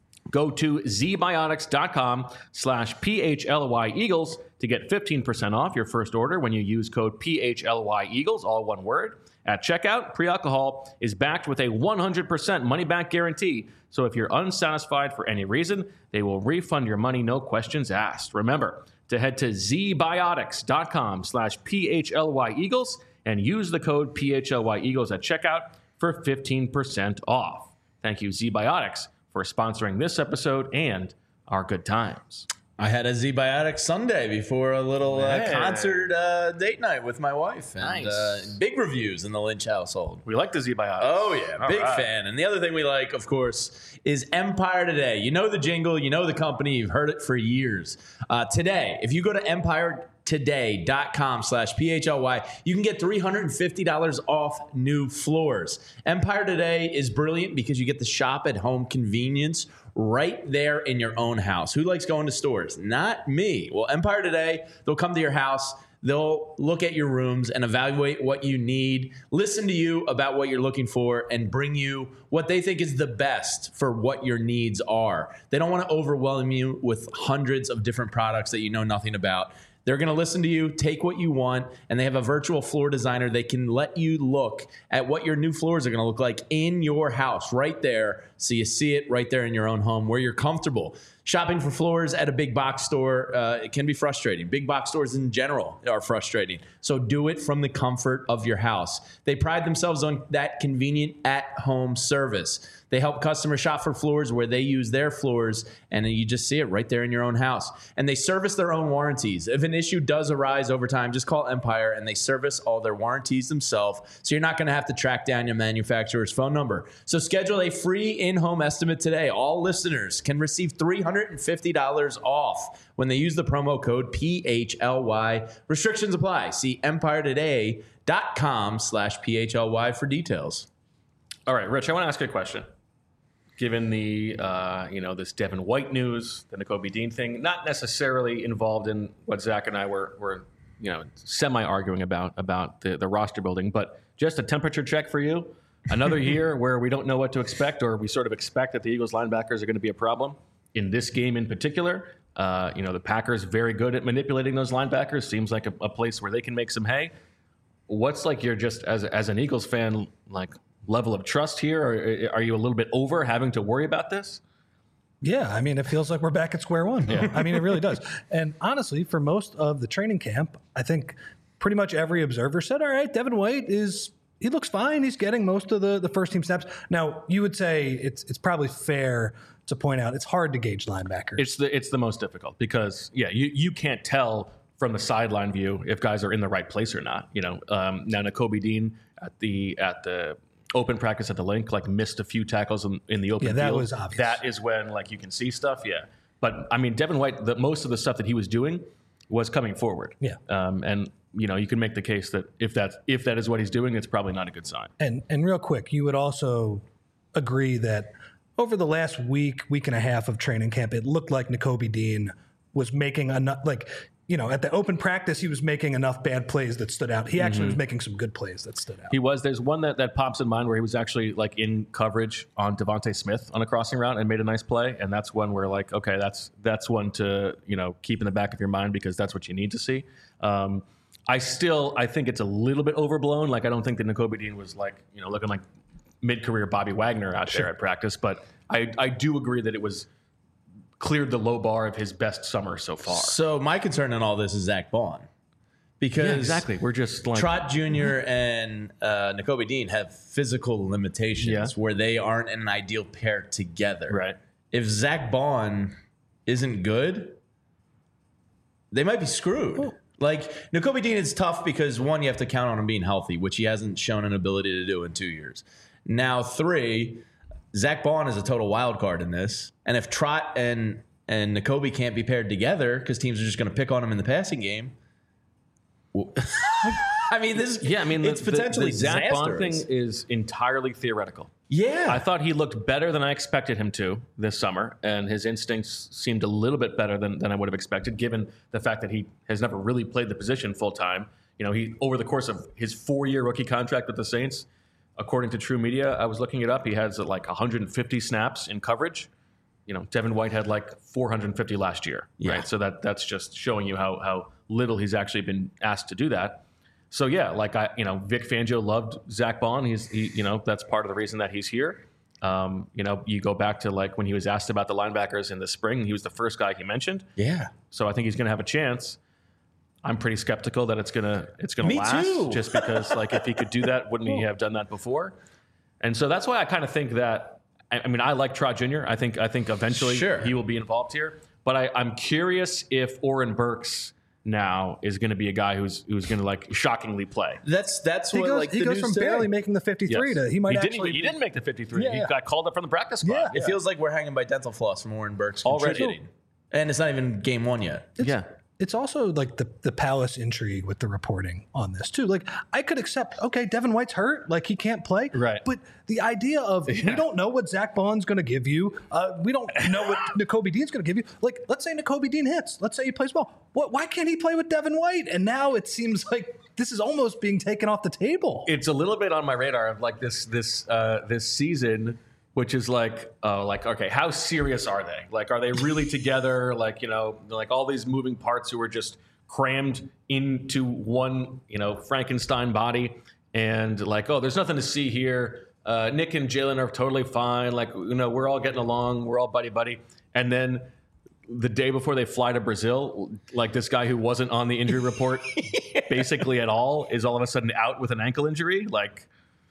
Go to zbiotics.com slash PHLY Eagles to get fifteen percent off your first order when you use code P H L Y Eagles, all one word. At checkout, pre-alcohol is backed with a one hundred percent money-back guarantee. So if you're unsatisfied for any reason, they will refund your money, no questions asked. Remember to head to zbiotics.com slash PHLY Eagles and use the code P H L Y Eagles at checkout for fifteen percent off. Thank you, Z-Biotics, for sponsoring this episode and our good times. I had a Z-Biotics Sunday before a little uh, Hey. concert uh, date night with my wife. And, Nice. uh, big reviews in the Lynch household. We like the Z-Biotics. Oh, yeah. All Big right. fan. And the other thing we like, of course, is Empire Today. You know the jingle. You know the company. You've heard it for years. Uh, today, if you go to empiretoday.com slash PHLY, you can get three hundred fifty dollars off new floors. Empire Today is brilliant because you get the shop at home convenience right there in your own house. Who likes going to stores? Not me. Well, Empire Today, they'll come to your house. They'll look at your rooms and evaluate what you need, listen to you about what you're looking for, and bring you what they think is the best for what your needs are. They don't want to overwhelm you with hundreds of different products that you know nothing about. They're going to listen to you, take what you want, and they have a virtual floor designer. They can let you look at what your new floors are going to look like in your house right there, so you see it right there in your own home where you're comfortable. Shopping for floors at a big box store, uh, it can be frustrating. Big box stores in general are frustrating. So do it from the comfort of your house. They pride themselves on that convenient at-home service. They help customers shop for floors where they use their floors, and you just see it right there in your own house. And they service their own warranties. If an issue does arise over time, just call Empire, and they service all their warranties themselves, so you're not going to have to track down your manufacturer's phone number. So schedule a free in-home estimate today. All listeners can receive three hundred fifty dollars off when they use the promo code P H L Y. Restrictions apply. See empiretoday.com slash PHLY for details. All right, Rich, I want to ask you a question. Given the, uh, you know, this Devin White news, the Nakobe Dean thing, not necessarily involved in what Zach and I were, were you know, semi-arguing about, about the, the roster building, but just a temperature check for you. Another year where we don't know what to expect, or we sort of expect that the Eagles linebackers are going to be a problem. In this game in particular, uh, you know, the Packers very good at manipulating those linebackers. Seems like a, a place where they can make some hay. What's like your just as as an Eagles fan, like, level of trust here? Or are you a little bit over having to worry about this? Yeah, I mean, it feels like we're back at square one. Yeah. I mean, it really does. And honestly, for most of the training camp, I think pretty much every observer said, all right, Devin White is, he looks fine. He's getting most of the, the first team snaps. Now, you would say it's it's probably fair to point out it's hard to gauge linebackers. It's the it's the most difficult because, yeah, you, you can't tell from the sideline view if guys are in the right place or not. You know, um, now Nakobe Dean at the at the open practice at the link, like, missed a few tackles in, in the open yeah, field. that was obvious. That is when, like, you can see stuff, yeah. But, I mean, Devin White, the, most of the stuff that he was doing was coming forward. Yeah. Um, and, you know, you can make the case that if that's, if that is what he's doing, it's probably not a good sign. And and real quick, you would also agree that over the last week, week and a half of training camp, it looked like Nakobe Dean was making enough, like, you know, at the open practice, he was making enough bad plays that stood out. He actually mm-hmm. was making some good plays that stood out. He was. There's one that, that pops in mind where he was actually, like, in coverage on Devontae Smith on a crossing route and made a nice play. And that's one where, like, okay, that's that's one to, you know, keep in the back of your mind because that's what you need to see. Um, I still, I think it's a little bit overblown. Like, I don't think that Nakobe Dean was, like, you know, looking like mid-career Bobby Wagner out sure. there at practice. But I, I do agree that it was cleared the low bar of his best summer so far. So my concern in all this is Zach Bond. Because yeah, exactly. We're just like Trot Junior and uh, Nakobe Dean have physical limitations yeah. where they aren't an ideal pair together. Right. If Zach Bond isn't good, they might be screwed. Oh. Like, Nakobe Dean is tough because, one, you have to count on him being healthy, which he hasn't shown an ability to do in two years. Now, three, Zach Bond is a total wild card in this. And if Trot and and Nakobe can't be paired together because teams are just going to pick on him in the passing game, well, I mean, this yeah, I mean, it's the, potentially the, the Zach Bond thing disastrous. is entirely theoretical. Yeah. I thought he looked better than I expected him to this summer, and his instincts seemed a little bit better than, than I would have expected, given the fact that he has never really played the position full time. You know, he over the course of his four-year rookie contract with the Saints, according to True Media, I was looking it up, he has like one hundred fifty snaps in coverage. You know, Devin White had like four hundred fifty last year, yeah. right? So that that's just showing you how how little he's actually been asked to do that. So yeah, like I, you know, Vic Fangio loved Zach Bond. He's, he, you know, that's part of the reason that he's here. Um, you know, you go back to like when he was asked about the linebackers in the spring, he was the first guy he mentioned. Yeah. So I think he's going to have a chance. I'm pretty skeptical that it's gonna it's gonna Me last, too. just because like if he could do that, wouldn't he have done that before? And so that's why I kind of think that. I mean, I like Trot Junior I think I think eventually sure. he will be involved here. But I, I'm curious if Oren Burks now is going to be a guy who's who's going to like shockingly play. That's that's he what goes, like he the goes news from today. barely making the fifty-three Yes. to he might he actually didn't, he didn't make the fifty-three. Yeah, he yeah. got called up from the practice squad. Yeah. It feels like we're hanging by dental floss from Oren Burks Already. contributing. And it's not even game one yet. It's, Yeah. It's also like the, the Palace intrigue with the reporting on this too. Like I could accept, okay, Devin White's hurt, like he can't play. Right. But the idea of Yeah. we don't know what Zach Bond's going to give you. Uh, we don't know what Nakobe Dean's going to give you. Like, let's say Nakobe Dean hits. Let's say he plays well. What? Why can't he play with Devin White? And now it seems like this is almost being taken off the table. It's a little bit on my radar of like this this uh, this season, which is like, uh, like, okay, how serious are they? Like, are they really together? Like, you know, like all these moving parts who are just crammed into one, you know, Frankenstein body, and like, oh, there's nothing to see here. Uh, Nick and Jalen are totally fine. Like, you know, we're all getting along. We're all buddy buddy. And then the day before they fly to Brazil, like this guy who wasn't on the injury report basically at all is all of a sudden out with an ankle injury. Like,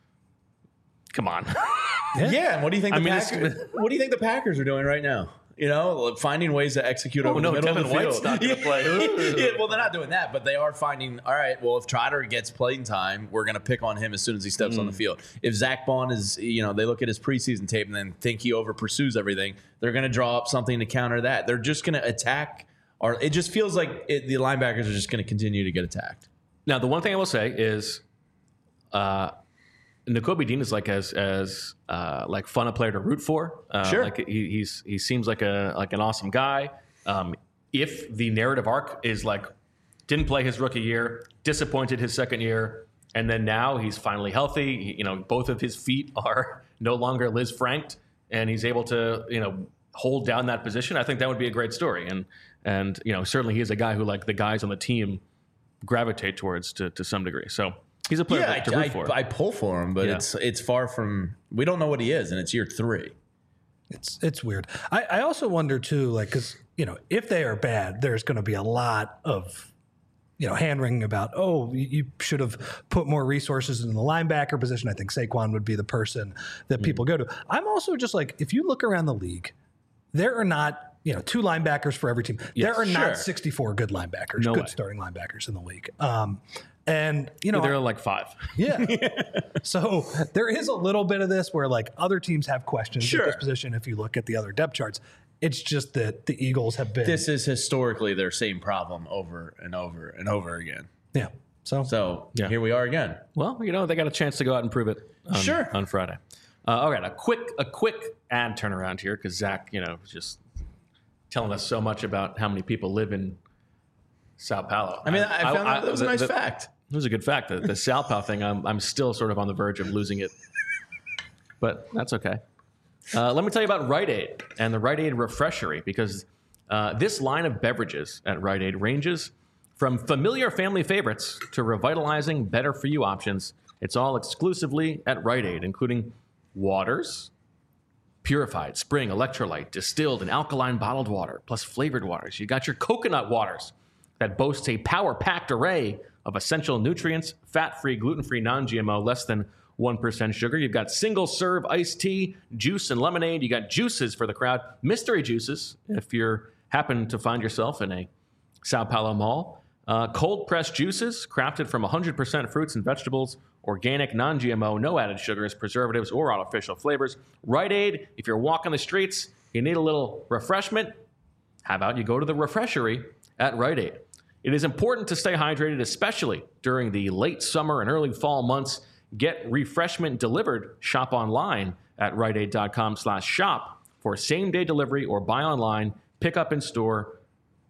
come on. Yeah. yeah, and what do you think? The I mean, Packers, what do you think the Packers are doing right now? You know, finding ways to execute over Oh, no, the middle Devin of the field. White's not going to play. Yeah, well, they're not doing that, but they are finding. All right, well, if Trotter gets playing time, we're going to pick on him as soon as he steps mm. on the field. If Zach Bond is, you know, they look at his preseason tape and then think he over pursues everything, they're going to draw up something to counter that. They're just going to attack. Or it just feels like it, the linebackers are just going to continue to get attacked. Now, the one thing I will say is, uh, Nakobe Dean is like as as uh, like fun a player to root for. Uh, Sure. Like he, he's he seems like a like an awesome guy. Um, if the narrative arc is like didn't play his rookie year, disappointed his second year, and then now he's finally healthy. He, you know, both of his feet are no longer Liz Franked, and he's able to you know hold down that position. I think that would be a great story. And and you know certainly he is a guy who like the guys on the team gravitate towards to to some degree. So. He's a player Yeah, to root I, for. I, I pull for him, but Yeah. it's it's far from. We don't know what he is, and it's year three. It's it's weird. I, I also wonder too, like, because you know, if they are bad, there's going to be a lot of, you know, hand wringing about. Oh, you, you should have put more resources in the linebacker position. I think Saquon would be the person that people go to. I'm also just like, if you look around the league, there are not, you know, two linebackers for every team. Yes, there are sure. not sixty-four good linebackers, No good way. starting linebackers in the league. Um, and you know, There are like five. yeah. So there is a little bit of this where like other teams have questions Sure. at this position. If you look at the other depth charts, it's just that the Eagles have been. This is historically their same problem over and over and over again. yeah. So, So Yeah. here we are again. Well, you know, they got a chance to go out and prove it on, Sure. on Friday. Uh, all right, a quick a quick ad turnaround here because Zach, you know, was just telling us so much about how many people live in Sao Paulo. I mean, I, found that, that was a the- nice the- fact. It was a good fact. The, the Sao Paulo thing, I'm, I'm still sort of on the verge of losing it. But that's okay. Uh, let me tell you about Rite Aid and the Rite Aid Refreshery, because uh, this line of beverages at Rite Aid ranges from familiar family favorites to revitalizing better-for-you options. It's all exclusively at Rite Aid, including waters, purified, spring, electrolyte, distilled, and alkaline bottled water, plus flavored waters. You got your coconut waters that boasts a power-packed array of essential nutrients, fat-free, gluten-free, non-G M O, less than one percent sugar. You've got single-serve iced tea, juice, and lemonade. You got juices for the crowd, mystery juices if you're happen to find yourself in a Sao Paulo mall. Uh, cold-pressed juices crafted from one hundred percent fruits and vegetables, organic, non-G M O, no added sugars, preservatives, or artificial flavors. Rite Aid, if you're walking the streets, you need a little refreshment, how about you go to the Refreshery at Rite Aid? It is important to stay hydrated, especially during the late summer and early fall months. Get refreshment delivered. Shop online at riteaid.com slash shop for same-day delivery or buy online, pick up in store,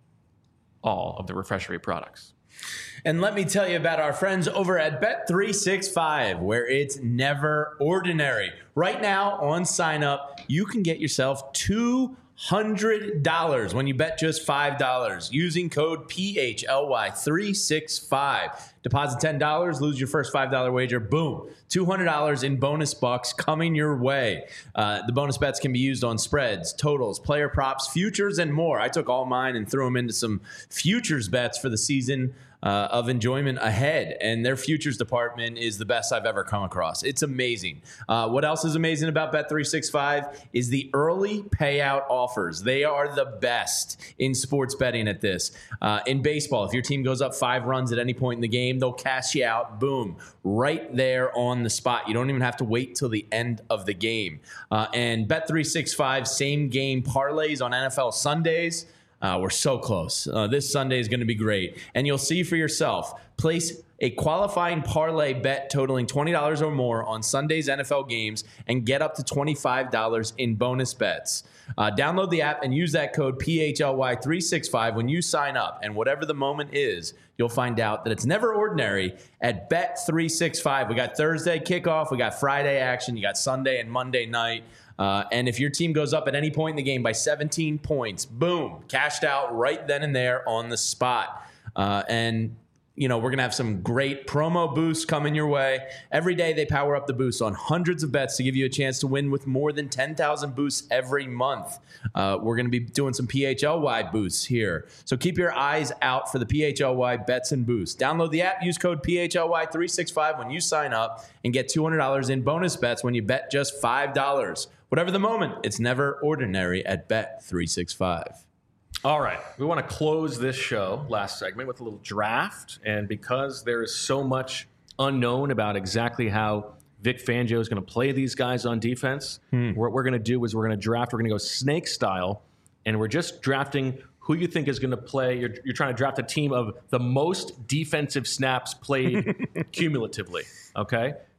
all of the Refreshery products. And let me tell you about our friends over at Bet three sixty-five, where it's never ordinary. Right now on sign up, you can get yourself two hundred dollars when you bet just five dollars using code P H L Y three sixty-five. Deposit ten dollars, lose your first five dollar wager, boom. two hundred dollars in bonus bucks coming your way. Uh, the bonus bets can be used on spreads, totals, player props, futures, and more. I took all mine and threw them into some futures bets for the season uh, of enjoyment ahead. And their futures department is the best I've ever come across. It's amazing. Uh, what else is amazing about Bet three sixty-five is the early payout offers. They are the best in sports betting at this. Uh, in baseball, if your team goes up five runs at any point in the game, they'll cash you out, boom, right there on the spot. You don't even have to wait till the end of the game. Uh, and Bet three sixty-five same game parlays on N F L Sundays. Uh, we're so close. Uh, this Sunday is going to be great. And you'll see for yourself. Place a qualifying parlay bet totaling twenty dollars or more on Sunday's N F L games and get up to twenty-five dollars in bonus bets. Uh, download the app and use that code P H L Y three sixty-five when you sign up. And whatever the moment is, you'll find out that it's never ordinary at Bet three sixty-five. We got Thursday kickoff. We got Friday action. You got Sunday and Monday night. Uh, and if your team goes up at any point in the game by seventeen points, boom, cashed out right then and there on the spot. Uh, and, you know, we're going to have some great promo boosts coming your way. Every day they power up the boosts on hundreds of bets to give you a chance to win with more than ten thousand boosts every month. Uh, we're going to be doing some P H L Y boosts here. So keep your eyes out for the P H L Y bets and boosts. Download the app, use code P H L Y three sixty-five when you sign up, and get two hundred dollars in bonus bets when you bet just five dollars. Whatever the moment, it's never ordinary at Bet three sixty-five. All right. We want to close this show, last segment, with a little draft. And because there is so much unknown about exactly how Vic Fangio is going to play these guys on defense, hmm. what we're going to do is we're going to draft. We're going to go snake style. And we're just drafting who you think is going to play. You're, you're trying to draft a team of the most defensive snaps played cumulatively. Okay?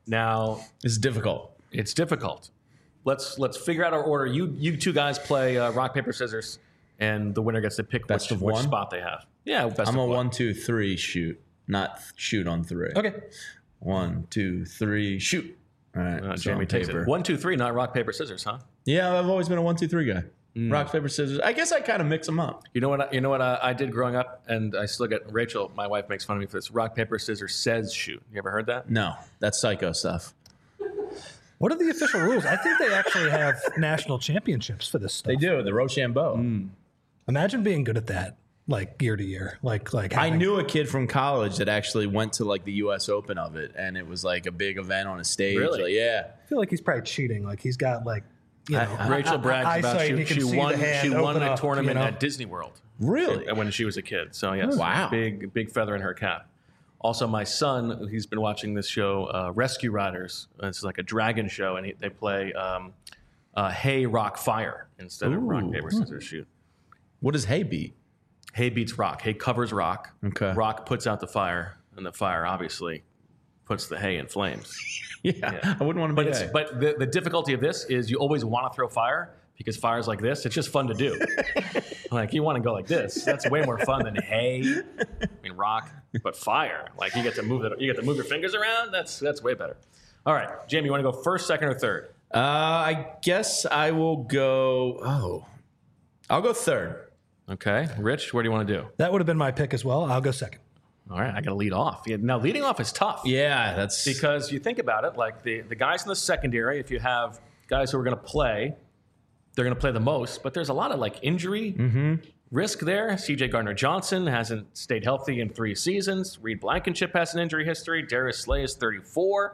Now, It's difficult. it's difficult. Let's let's figure out our order. You you two guys play uh, rock paper scissors, and the winner gets to pick Best which, of which one? spot they have. Yeah, best I'm of a one. one, two, three shoot, not shoot on three. Okay. One, two, three, shoot. All right. Uh, so Jamie on takes paper. it. One, two, three. Not rock paper scissors, huh? Yeah, I've always been a one, two, three guy. Mm. Rock, paper, scissors. I guess I kind of mix them up. You know what? I, you know what I, I did growing up, and I still get Rachel. My wife makes fun of me for this. Rock paper scissors says shoot. You ever heard that? No, that's psycho stuff. What are the official rules? I think they actually have national championships for this stuff. They do the Rochambeau. Mm. Imagine being good at that, like year to year. Like, like I having- knew a kid from college that actually went to like the U S Open of it, and it was like a big event on a stage. Really? Like, yeah. I feel like he's probably cheating. Like he's got like, you know, Rachel eye- brags eye- about eyesight, she, he can she see won. the hand She won open a up, tournament you know? at Disney World. Really? When she was a kid. So yes, Wow. big big feather in her cap. Also, my son, he's been watching this show, uh, Rescue Riders. It's like a dragon show, and he, they play um, uh, hay, rock, fire instead of rock, Ooh. paper, scissors, shoot. What does hay beat? Hay beats rock. Hay covers rock. Okay. Rock puts out the fire, and the fire obviously puts the hay in flames. Yeah, Yeah. I wouldn't want to But be it's, hay. but the, the difficulty of this is you always want to throw fire because fires like this, it's just fun to do. Like you want to go like this. That's way more fun than hay. I mean rock, but fire. Like you get to move it. You get to move your fingers around. That's that's way better. All right, Jamie, you want to go first, second, or third? Uh, I guess I will go. Oh, I'll go third. Okay, Rich, where do you want to do? that would have been my pick as well. I'll go second. All right, I got to lead off. Yeah, now leading off is tough. Yeah, that's Because you think about it, like the, the guys in the secondary, if you have guys who are going to play, they're going to play the most, but there's a lot of like injury risk there. C J Gardner-Johnson hasn't stayed healthy in three seasons. Reed Blankenship has an injury history. Darius Slay is thirty-four.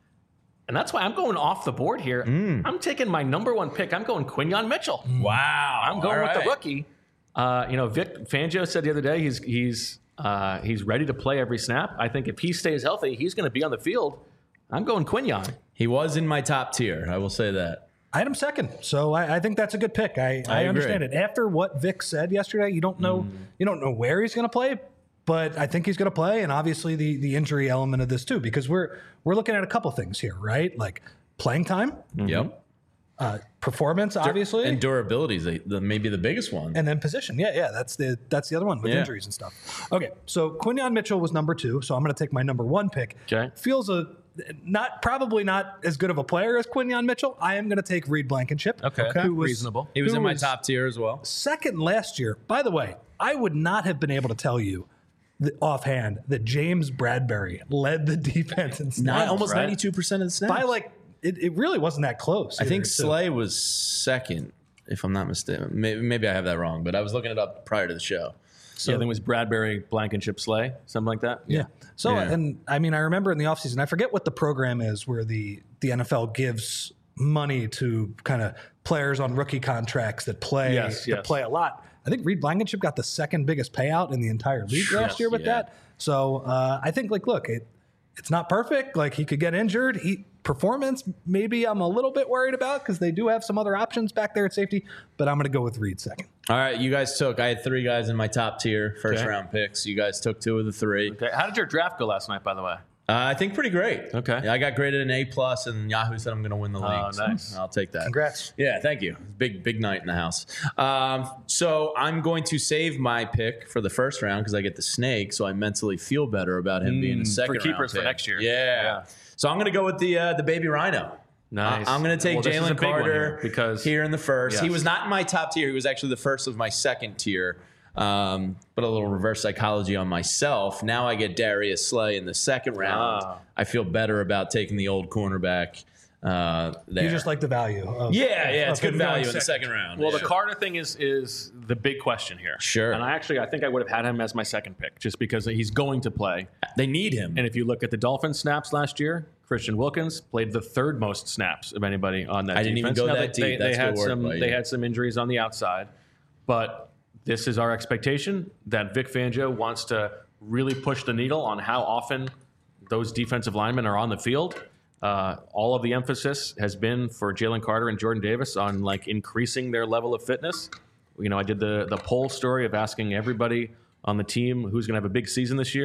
And that's why I'm going off the board here. I'm taking my number one pick. I'm going Quinyon Mitchell. wow. I'm going All with the right. rookie. Uh, you know, Vic Fangio said the other day he's he's uh, he's ready to play every snap. I think if he stays healthy, he's going to be on the field. I'm going Quinyon. He was in my top tier. I will say that. I had him second, so I, I think that's a good pick. I, I, agree. understand it. After what Vic said yesterday, you don't know you don't know where he's going to play, but I think he's going to play, and obviously the the injury element of this too, because we're we're looking at a couple things here, right? Like playing time, Yep. uh, performance, obviously, And durability is the, the, maybe the biggest one. and then position. Yeah, yeah, that's the that's the other one with Yeah. injuries and stuff. Okay, so Quinyon Mitchell was number two, so I'm going to take my number one pick. Okay. Feels a not probably not as good of a player as Quinyon Mitchell. I am going to take Reed Blankenship. Okay. who was- Reasonable. he was who in my was top tier as well. second last year. By the way, I would not have been able to tell you the, offhand that James Bradbury led the defense in Nine, snaps. almost right? ninety-two percent of the snaps. By like it, it really wasn't that close. I think either, so- Slay was second, if I'm not mistaken. Maybe, maybe I have that wrong, but I was looking it up prior to the show. So yeah, I think it was Bradbury, Blankenship, Slay, something like that. Yeah. So Yeah. and I mean I remember in the offseason, I forget what the program is where the the N F L gives money to kind of players on rookie contracts that play Yes, that yes. play a lot. I think Reed Blankenship got the second biggest payout in the entire league last Yes, year with yeah. that. So uh, I think like look, it it's not perfect. Like he could get injured. He performance maybe I'm a little bit worried about because they do have some other options back there at safety. But I'm going to go with Reed second. All right, you guys took. I had three guys in my top tier, first Okay. round picks. You guys took two of the three. Okay. How did your draft go last night, by the way? Uh, I think pretty great. Okay. Yeah, I got graded an A plus, and Yahoo said I'm going to win the league. Oh, so nice. I'll take that. Congrats. Yeah, thank you. Big, big night in the house. Um, so I'm going to save my pick for the first round because I get the snake, so I mentally feel better about him being a second for keepers round for pick. next year. Yeah. Yeah. So I'm going to go with the uh, the baby rhino. Nice. I- I'm going to take Well, this is a Jalen big one Carter here because here in the first. He Yes. was not in my top tier. He was actually the first of my second tier. Um, but a little reverse psychology on myself. Now I get Darius Slay in the second round. Ah. I feel better about taking the old cornerback uh, there. You just like the value. Of, yeah, yeah, it's of him good going value in the second. second round. Well, yeah. the Carter thing is is the big question here. Sure. And I actually I think I would have had him as my second pick just because he's going to play. They need him. And if you look at the Dolphins snaps last year, Christian Wilkins played the third most snaps of anybody on that I didn't even defense. go Now, that they, deep. They, That's they had good work some by you. they had some injuries on the outside, but this is our expectation that Vic Fangio wants to really push the needle on how often those defensive linemen are on the field. Uh, all of the emphasis has been for Jalen Carter and Jordan Davis on like increasing their level of fitness. You know, I did the the poll story of asking everybody on the team who's going to have a big season this year,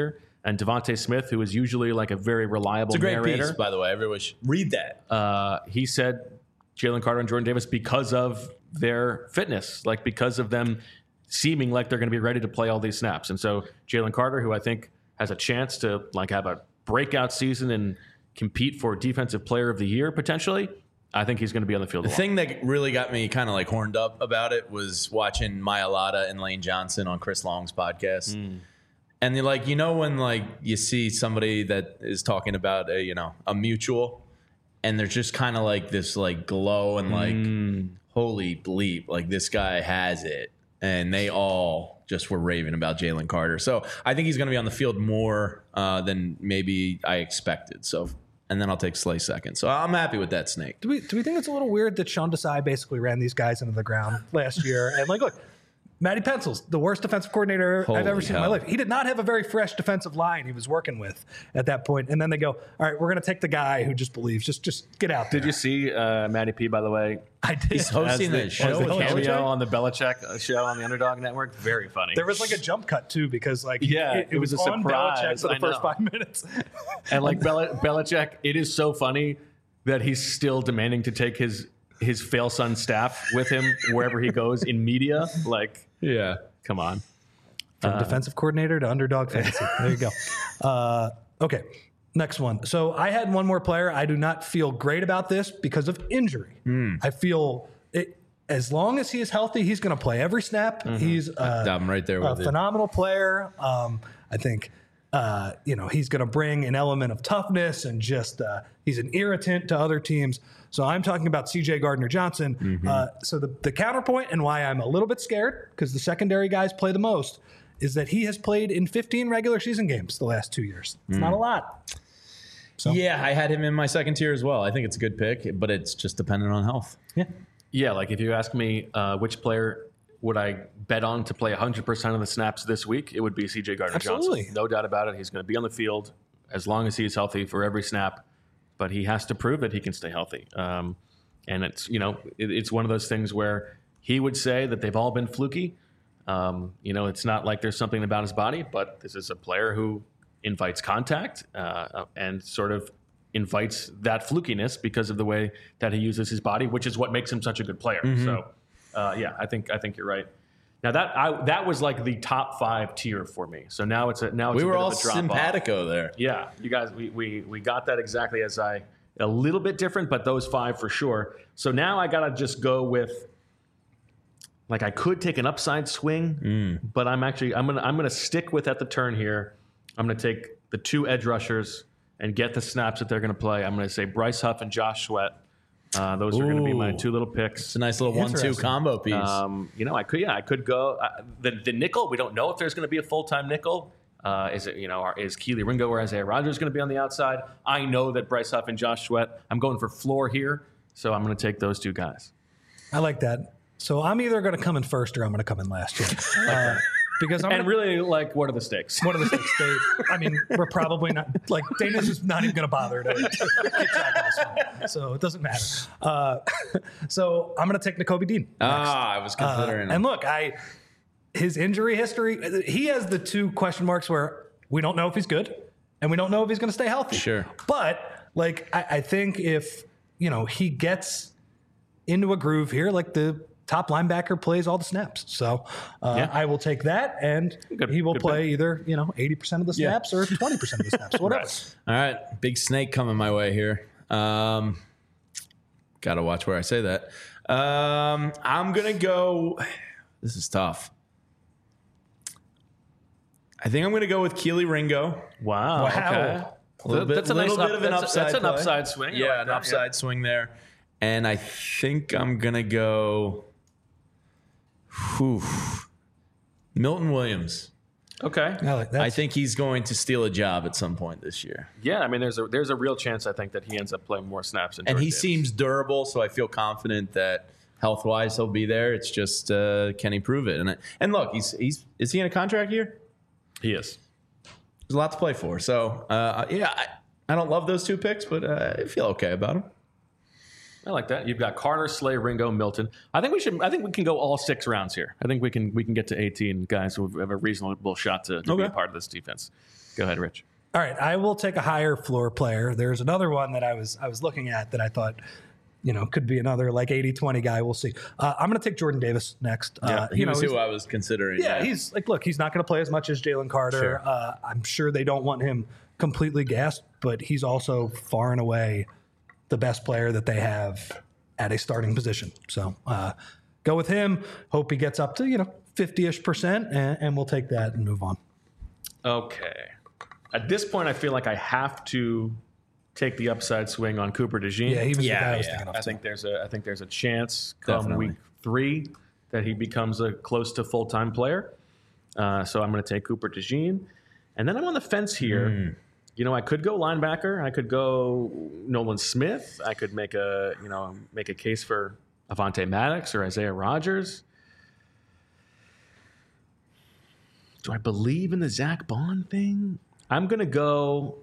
And Devontae Smith, who is usually like a very reliable It's a great narrator, piece, by the way. Everyone should read that. uh, he said Jalen Carter and Jordan Davis because of their fitness, like because of them seeming like they're going to be ready to play all these snaps. And so Jalen Carter, who I think has a chance to like have a breakout season and compete for Defensive Player of the Year potentially, I think he's going to be on the field a The lot. thing that really got me kind of like horned up about it was watching Maya Lotta and Lane Johnson on Chris Long's podcast. Mm. And they're like, you know, when like you see somebody that is talking about a, you know, a mutual, and there's just kind of like this like glow and like, Mm. holy bleep, like this guy has it. And they all just were raving about Jalen Carter. So I think he's going to be on the field more uh, than maybe I expected. So, and then I'll take Slay second. So I'm happy with that, Snake. Do we do we think it's a little weird that Sean Desai basically ran these guys into the ground last year? And like, look, Matty Pencils, the worst defensive coordinator Holy I've ever seen hell. in my life. He did not have a very fresh defensive line he was working with at that point. And then they go, all right, we're going to take the guy who just believes. Just just get out there. Did you see uh, Matty P, by the way? I did. He's hosting the, the show as the with cameo Belichick? on the Belichick show on the Underdog Network? Very funny. There was like a jump cut too because like Yeah, it, it it was was, a on surprise. Belichick for the I first know. five minutes. And like Bel- Belichick, it is so funny that he's still demanding to take his his fail son staff with him wherever he goes in media. Like, Yeah. come on. From defensive coordinator to underdog fantasy. There you go. Uh, okay, next one. So I had one more player. I do not feel great about this because of injury. I feel it, as long as he is healthy, he's going to play every snap. He's uh, I'm right there a with you. phenomenal player. Um, I think uh, you know he's going to bring an element of toughness and just uh, he's an irritant to other teams. So I'm talking about C J Gardner Johnson. Mm-hmm. Uh, so the, the counterpoint and why I'm a little bit scared because the secondary guys play the most is that he has played in fifteen regular season games the last two years. It's Mm. not a lot. So Yeah, I had him in my second tier as well. I think it's a good pick, but it's just dependent on health. yeah. Yeah, like if you ask me uh, which player would I bet on to play one hundred percent of the snaps this week, it would be C J Gardner Absolutely. Johnson. No doubt about it. He's going to be on the field as long as he's healthy for every snap, but he has to prove that he can stay healthy. Um, and it's, you know, it, it's one of those things where he would say that they've all been fluky. Um, you know, it's not like there's something about his body, but this is a player who invites contact uh, and sort of invites that flukiness because of the way that he uses his body, which is what makes him such a good player. So, uh, yeah, I think I think you're right. Now that I, that was like the top five tier for me. So now it's a now it's We a were bit all of a drop off. simpatico there. Yeah, you guys, we, we we got that exactly as I a little bit different, but those five for sure. So now I gotta just go with. Like I could take an upside swing, but I'm actually I'm gonna I'm gonna stick with at the turn here. I'm gonna take the two edge rushers and get the snaps that they're gonna play. I'm gonna say Bryce Huff and Josh Sweat. Uh, those are gonna be my Ooh. two little picks. It's a nice little one-two Interesting. combo piece. Um, you know, I could yeah I could go uh, the the nickel. We don't know if there's gonna be a full time nickel. Uh, is it you know are, is Keely Ringo or Isaiah Rogers gonna be on the outside? I know that Bryce Huff and Josh Sweat. I'm going for floor here, so I'm gonna take those two guys. I like that. So I'm either going to come in first or I'm going to come in last year. Uh, because I'm And gonna, really, like, what are the stakes? one of the stakes. They, I mean, we're probably not like Dana's just not even going to bother to keep track of this one, so it doesn't matter. Uh, so I'm going to take Nakobe Dean. ah, I was considering. And look, I his injury history. He has the two question marks where we don't know if he's good and we don't know if he's going to stay healthy. Sure. But like, I, I think if you know he gets into a groove here, like the top linebacker plays all the snaps. So uh, Yeah. I will take that, and Good- he will good play pick. either you know eighty percent of the Yeah. snaps or twenty percent of the snaps, whatever. Right. All right, big snake coming my way here. Um, gotta watch where I say that. Um, I'm gonna go. This is tough. I think I'm gonna go with Keely Ringo. Wow. Wow. Okay. A little bit, That's a little nice bit up- of an that's a- upside. that's an play. upside swing. I Yeah, like an that, upside swing there. And I think I'm gonna go. Whew, Milton Williams. Okay. I like that. I think he's going to steal a job at some point this year. Yeah, I mean, there's a there's a real chance I think that he ends up playing more snaps. Than And Jordan he Davis. seems durable, so I feel confident that health wise he'll be there. It's just uh, can he prove it? And and look, he's he's is he in a contract year? he is. There's a lot to play for. So uh, yeah, I, I don't love those two picks, but uh, I feel okay about them. I like that. You've got Carter, Slay, Ringo, Milton. I think we should. I think we can go all six rounds here. I think we can. We can get to eighteen guys who have a reasonable shot to, to Okay. be a part of this defense. Go ahead, Rich. All right, I will take a higher floor player. There's another one that I was I was looking at that I thought, you know, could be another like eighty twenty guy. We'll see. Uh, I'm going to take Jordan Davis next. Uh, He you know, was he's- who I was considering. Yeah, he's like, look, he's not going to play as much as Jalen Carter. Sure. Uh, I'm sure they don't want him completely gassed, but he's also far and away the best player that they have at a starting position. So uh, go with him. Hope he gets up to, you know, fifty-ish percent, and, and we'll take that and move on. Okay. At this point, I feel like I have to take the upside swing on Cooper DeJean. Yeah, he was Yeah, the guy I was yeah. thinking of. I think there's a I think there's a chance come Definitely. week three that he becomes a close to full time player. Uh, so I'm going to take Cooper DeJean, and then I'm on the fence here. Mm. You know, I could go linebacker. I could go Nolan Smith. I could make a you know make a case for Avonte Maddox or Isaiah Rodgers. Do I believe in the Zach Bond thing? I'm going to go.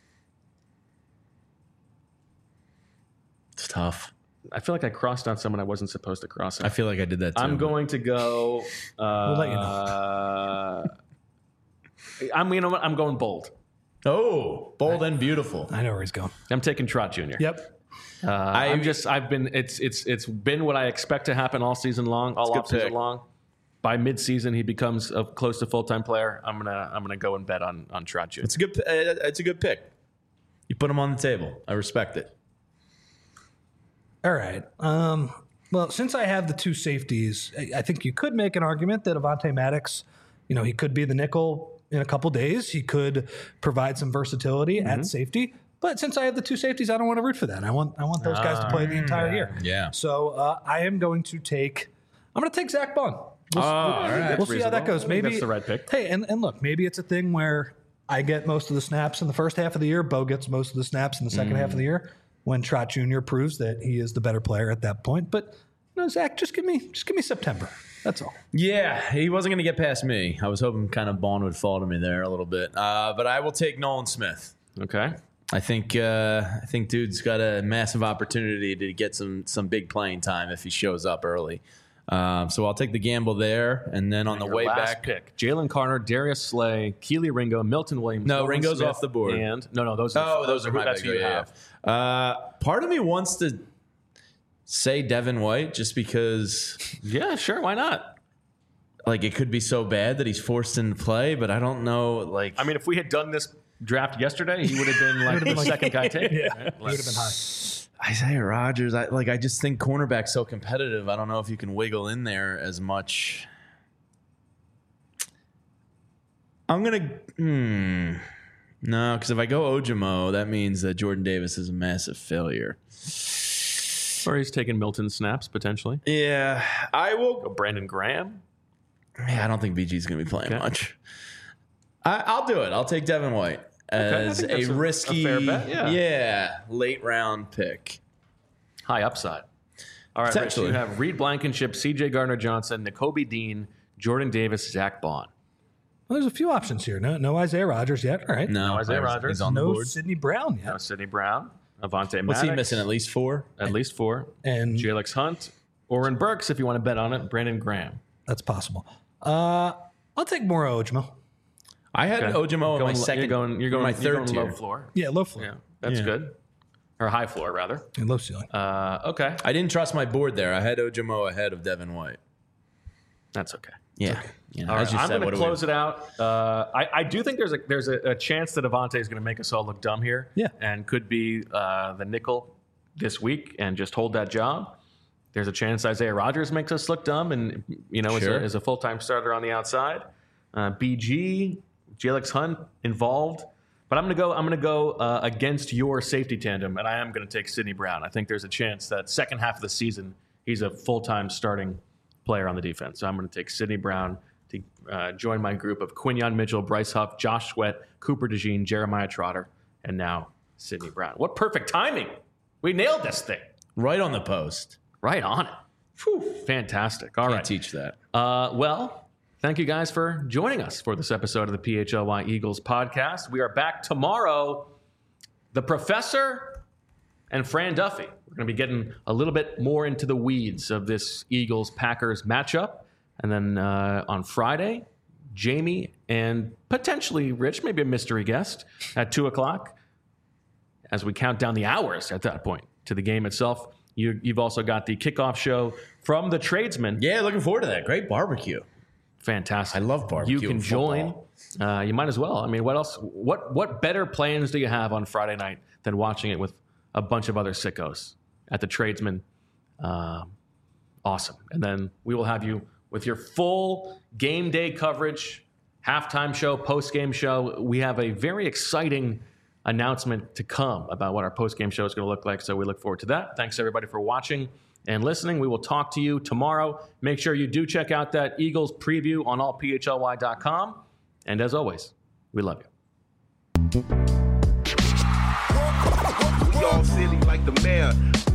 It's tough. I feel like I crossed out someone I wasn't supposed to cross out. I feel like I did that too. I'm going to go. Uh, We'll let you know. I'm you know what? I'm going bold. Oh, bold and beautiful. I know where he's going. I'm taking Trot Junior Yep. Uh, I'm just. I've been. It's. It's. It's been what I expect to happen all season long, all It's a off good season pick. long. By mid-season, he becomes a close to full-time player. I'm gonna. I'm gonna go and bet on on Trot Junior It's a good. Uh, it's a good pick. You put him on the table. I respect it. All right. Um, well, since I have the two safeties, I, I think you could make an argument that Avonte Maddox, you know, he could be the nickel in a couple days. He could provide some versatility at safety. But since I have the two safeties, I don't want to root for that. I want I want those guys to play the entire year. Yeah. So uh, I am going to take. I'm going to take Zach Bond. We'll, Oh, all right. we'll see how that reasonable. goes. I think Maybe that's the right pick. Hey, and, and look, maybe it's a thing where I get most of the snaps in the first half of the year. Bo gets most of the snaps in the second half of the year. When Trot Junior proves that he is the better player at that point. But you know, Zach, just give me just give me September. That's all. Yeah, he wasn't going to get past me. I was hoping kind of Bond would fall to me there a little bit. Uh, but I will take Nolan Smith. Okay. I think uh, I think dude's got a massive opportunity to get some some big playing time if he shows up early. Um, so I'll take the gamble there, and then on the Your way last back, pick: Jalen Carter, Darius Slay, Keely Ringo, Milton Williams. No, Nolan Ringo's Smith, off the board. And no, no, those. Are, oh, those are who- my That's pick. who you Yeah, have. yeah. Uh, part of me wants to say Devin White just because, Yeah, sure. Why not? like, it could be so bad that he's forced into play, but I don't know. Like, I mean, if we had done this draft yesterday, he would have been like the second guy taken. Yeah, right? he would have been high. Isaiah Rodgers, I like. I just think cornerback's so competitive. I don't know if you can wiggle in there as much. I'm gonna. Hmm. No, because if I go Ojimo, that means that Jordan Davis is a massive failure. Or he's taking Milton snaps potentially. Yeah, I will. Go Brandon Graham. Yeah, I don't think B G's gonna be playing Okay. much. I, I'll do it. I'll take Devin White I as think a that's a- a risky, fair bet, yeah. yeah, late round pick. High upside. All right, Rich, Potentially. you have Reed Blankenship, C J Gardner-Johnson, N'Kobe Dean, Jordan Davis, Zach Bond. Well, there's a few options here. No, no Isaiah Rodgers yet. All right. No, Isaiah he's- Rodgers. he's on the No board. Sidney Brown yet. No Sidney Brown, Avonte Maddox. What's he missing? At least four. At least four. And Jalix Hunt, Oren Burks, if you want to bet on it, Brandon Graham. that's possible. Uh, I'll take Moro Ojimo. I had Okay. Ojimo in Going- my second. You're going. You're going. my you're third going tier. low floor. Yeah, low floor. Yeah, that's Yeah. good. Or high floor rather. And low ceiling. Uh, okay, I didn't trust my board there. I had Ojimo ahead of Devin White. that's okay. Yeah, you know, All as right, you I'm said, going what to do we- close it out. Uh, I, I do think there's a there's a, a chance that Avonte is going to make us all look dumb here. Yeah. and could be uh, the nickel this week and just hold that job. There's a chance Isaiah Rodgers makes us look dumb and you know Sure. is a, is a full time starter on the outside. Uh, B G, Jalix Hunt involved. But I'm going to go. I'm going to go uh, against your safety tandem, and I am going to take Sidney Brown. I think there's a chance that second half of the season he's a full-time starting player on the defense. So I'm going to take Sidney Brown to uh, join my group of Quinyon Mitchell, Bryce Huff, Josh Sweat, Cooper DeJean, Jeremiah Trotter, and now Sidney Brown. What perfect timing! We nailed this thing. right on the post. Right on it. Whew, fantastic. All Can't right. teach that. Uh, well, thank you guys for joining us for this episode of the P H L Y Eagles podcast. We are back tomorrow. The professor and Fran Duffy. We're going to be getting a little bit more into the weeds of this Eagles-Packers matchup. And then uh, on Friday, Jamie and potentially Rich, maybe a mystery guest, at two o'clock, as we count down the hours at that point to the game itself. You, you've also got the kickoff show from the Tradesman. Yeah, looking forward to that. Great barbecue. Fantastic. I love barbecue. You can and join. Uh, you might as well. I mean, what else? What what better plans do you have on Friday night than watching it with a bunch of other sickos at the Tradesman? Uh, awesome. And then we will have you with your full game day coverage, halftime show, post-game show. We have a very exciting announcement to come about what our post-game show is going to look like, so we look forward to that. Thanks, everybody, for watching and listening. We will talk to you tomorrow. Make sure you do check out that Eagles preview on all P H L Y dot com. And as always, we love you. We all silly like the mayor.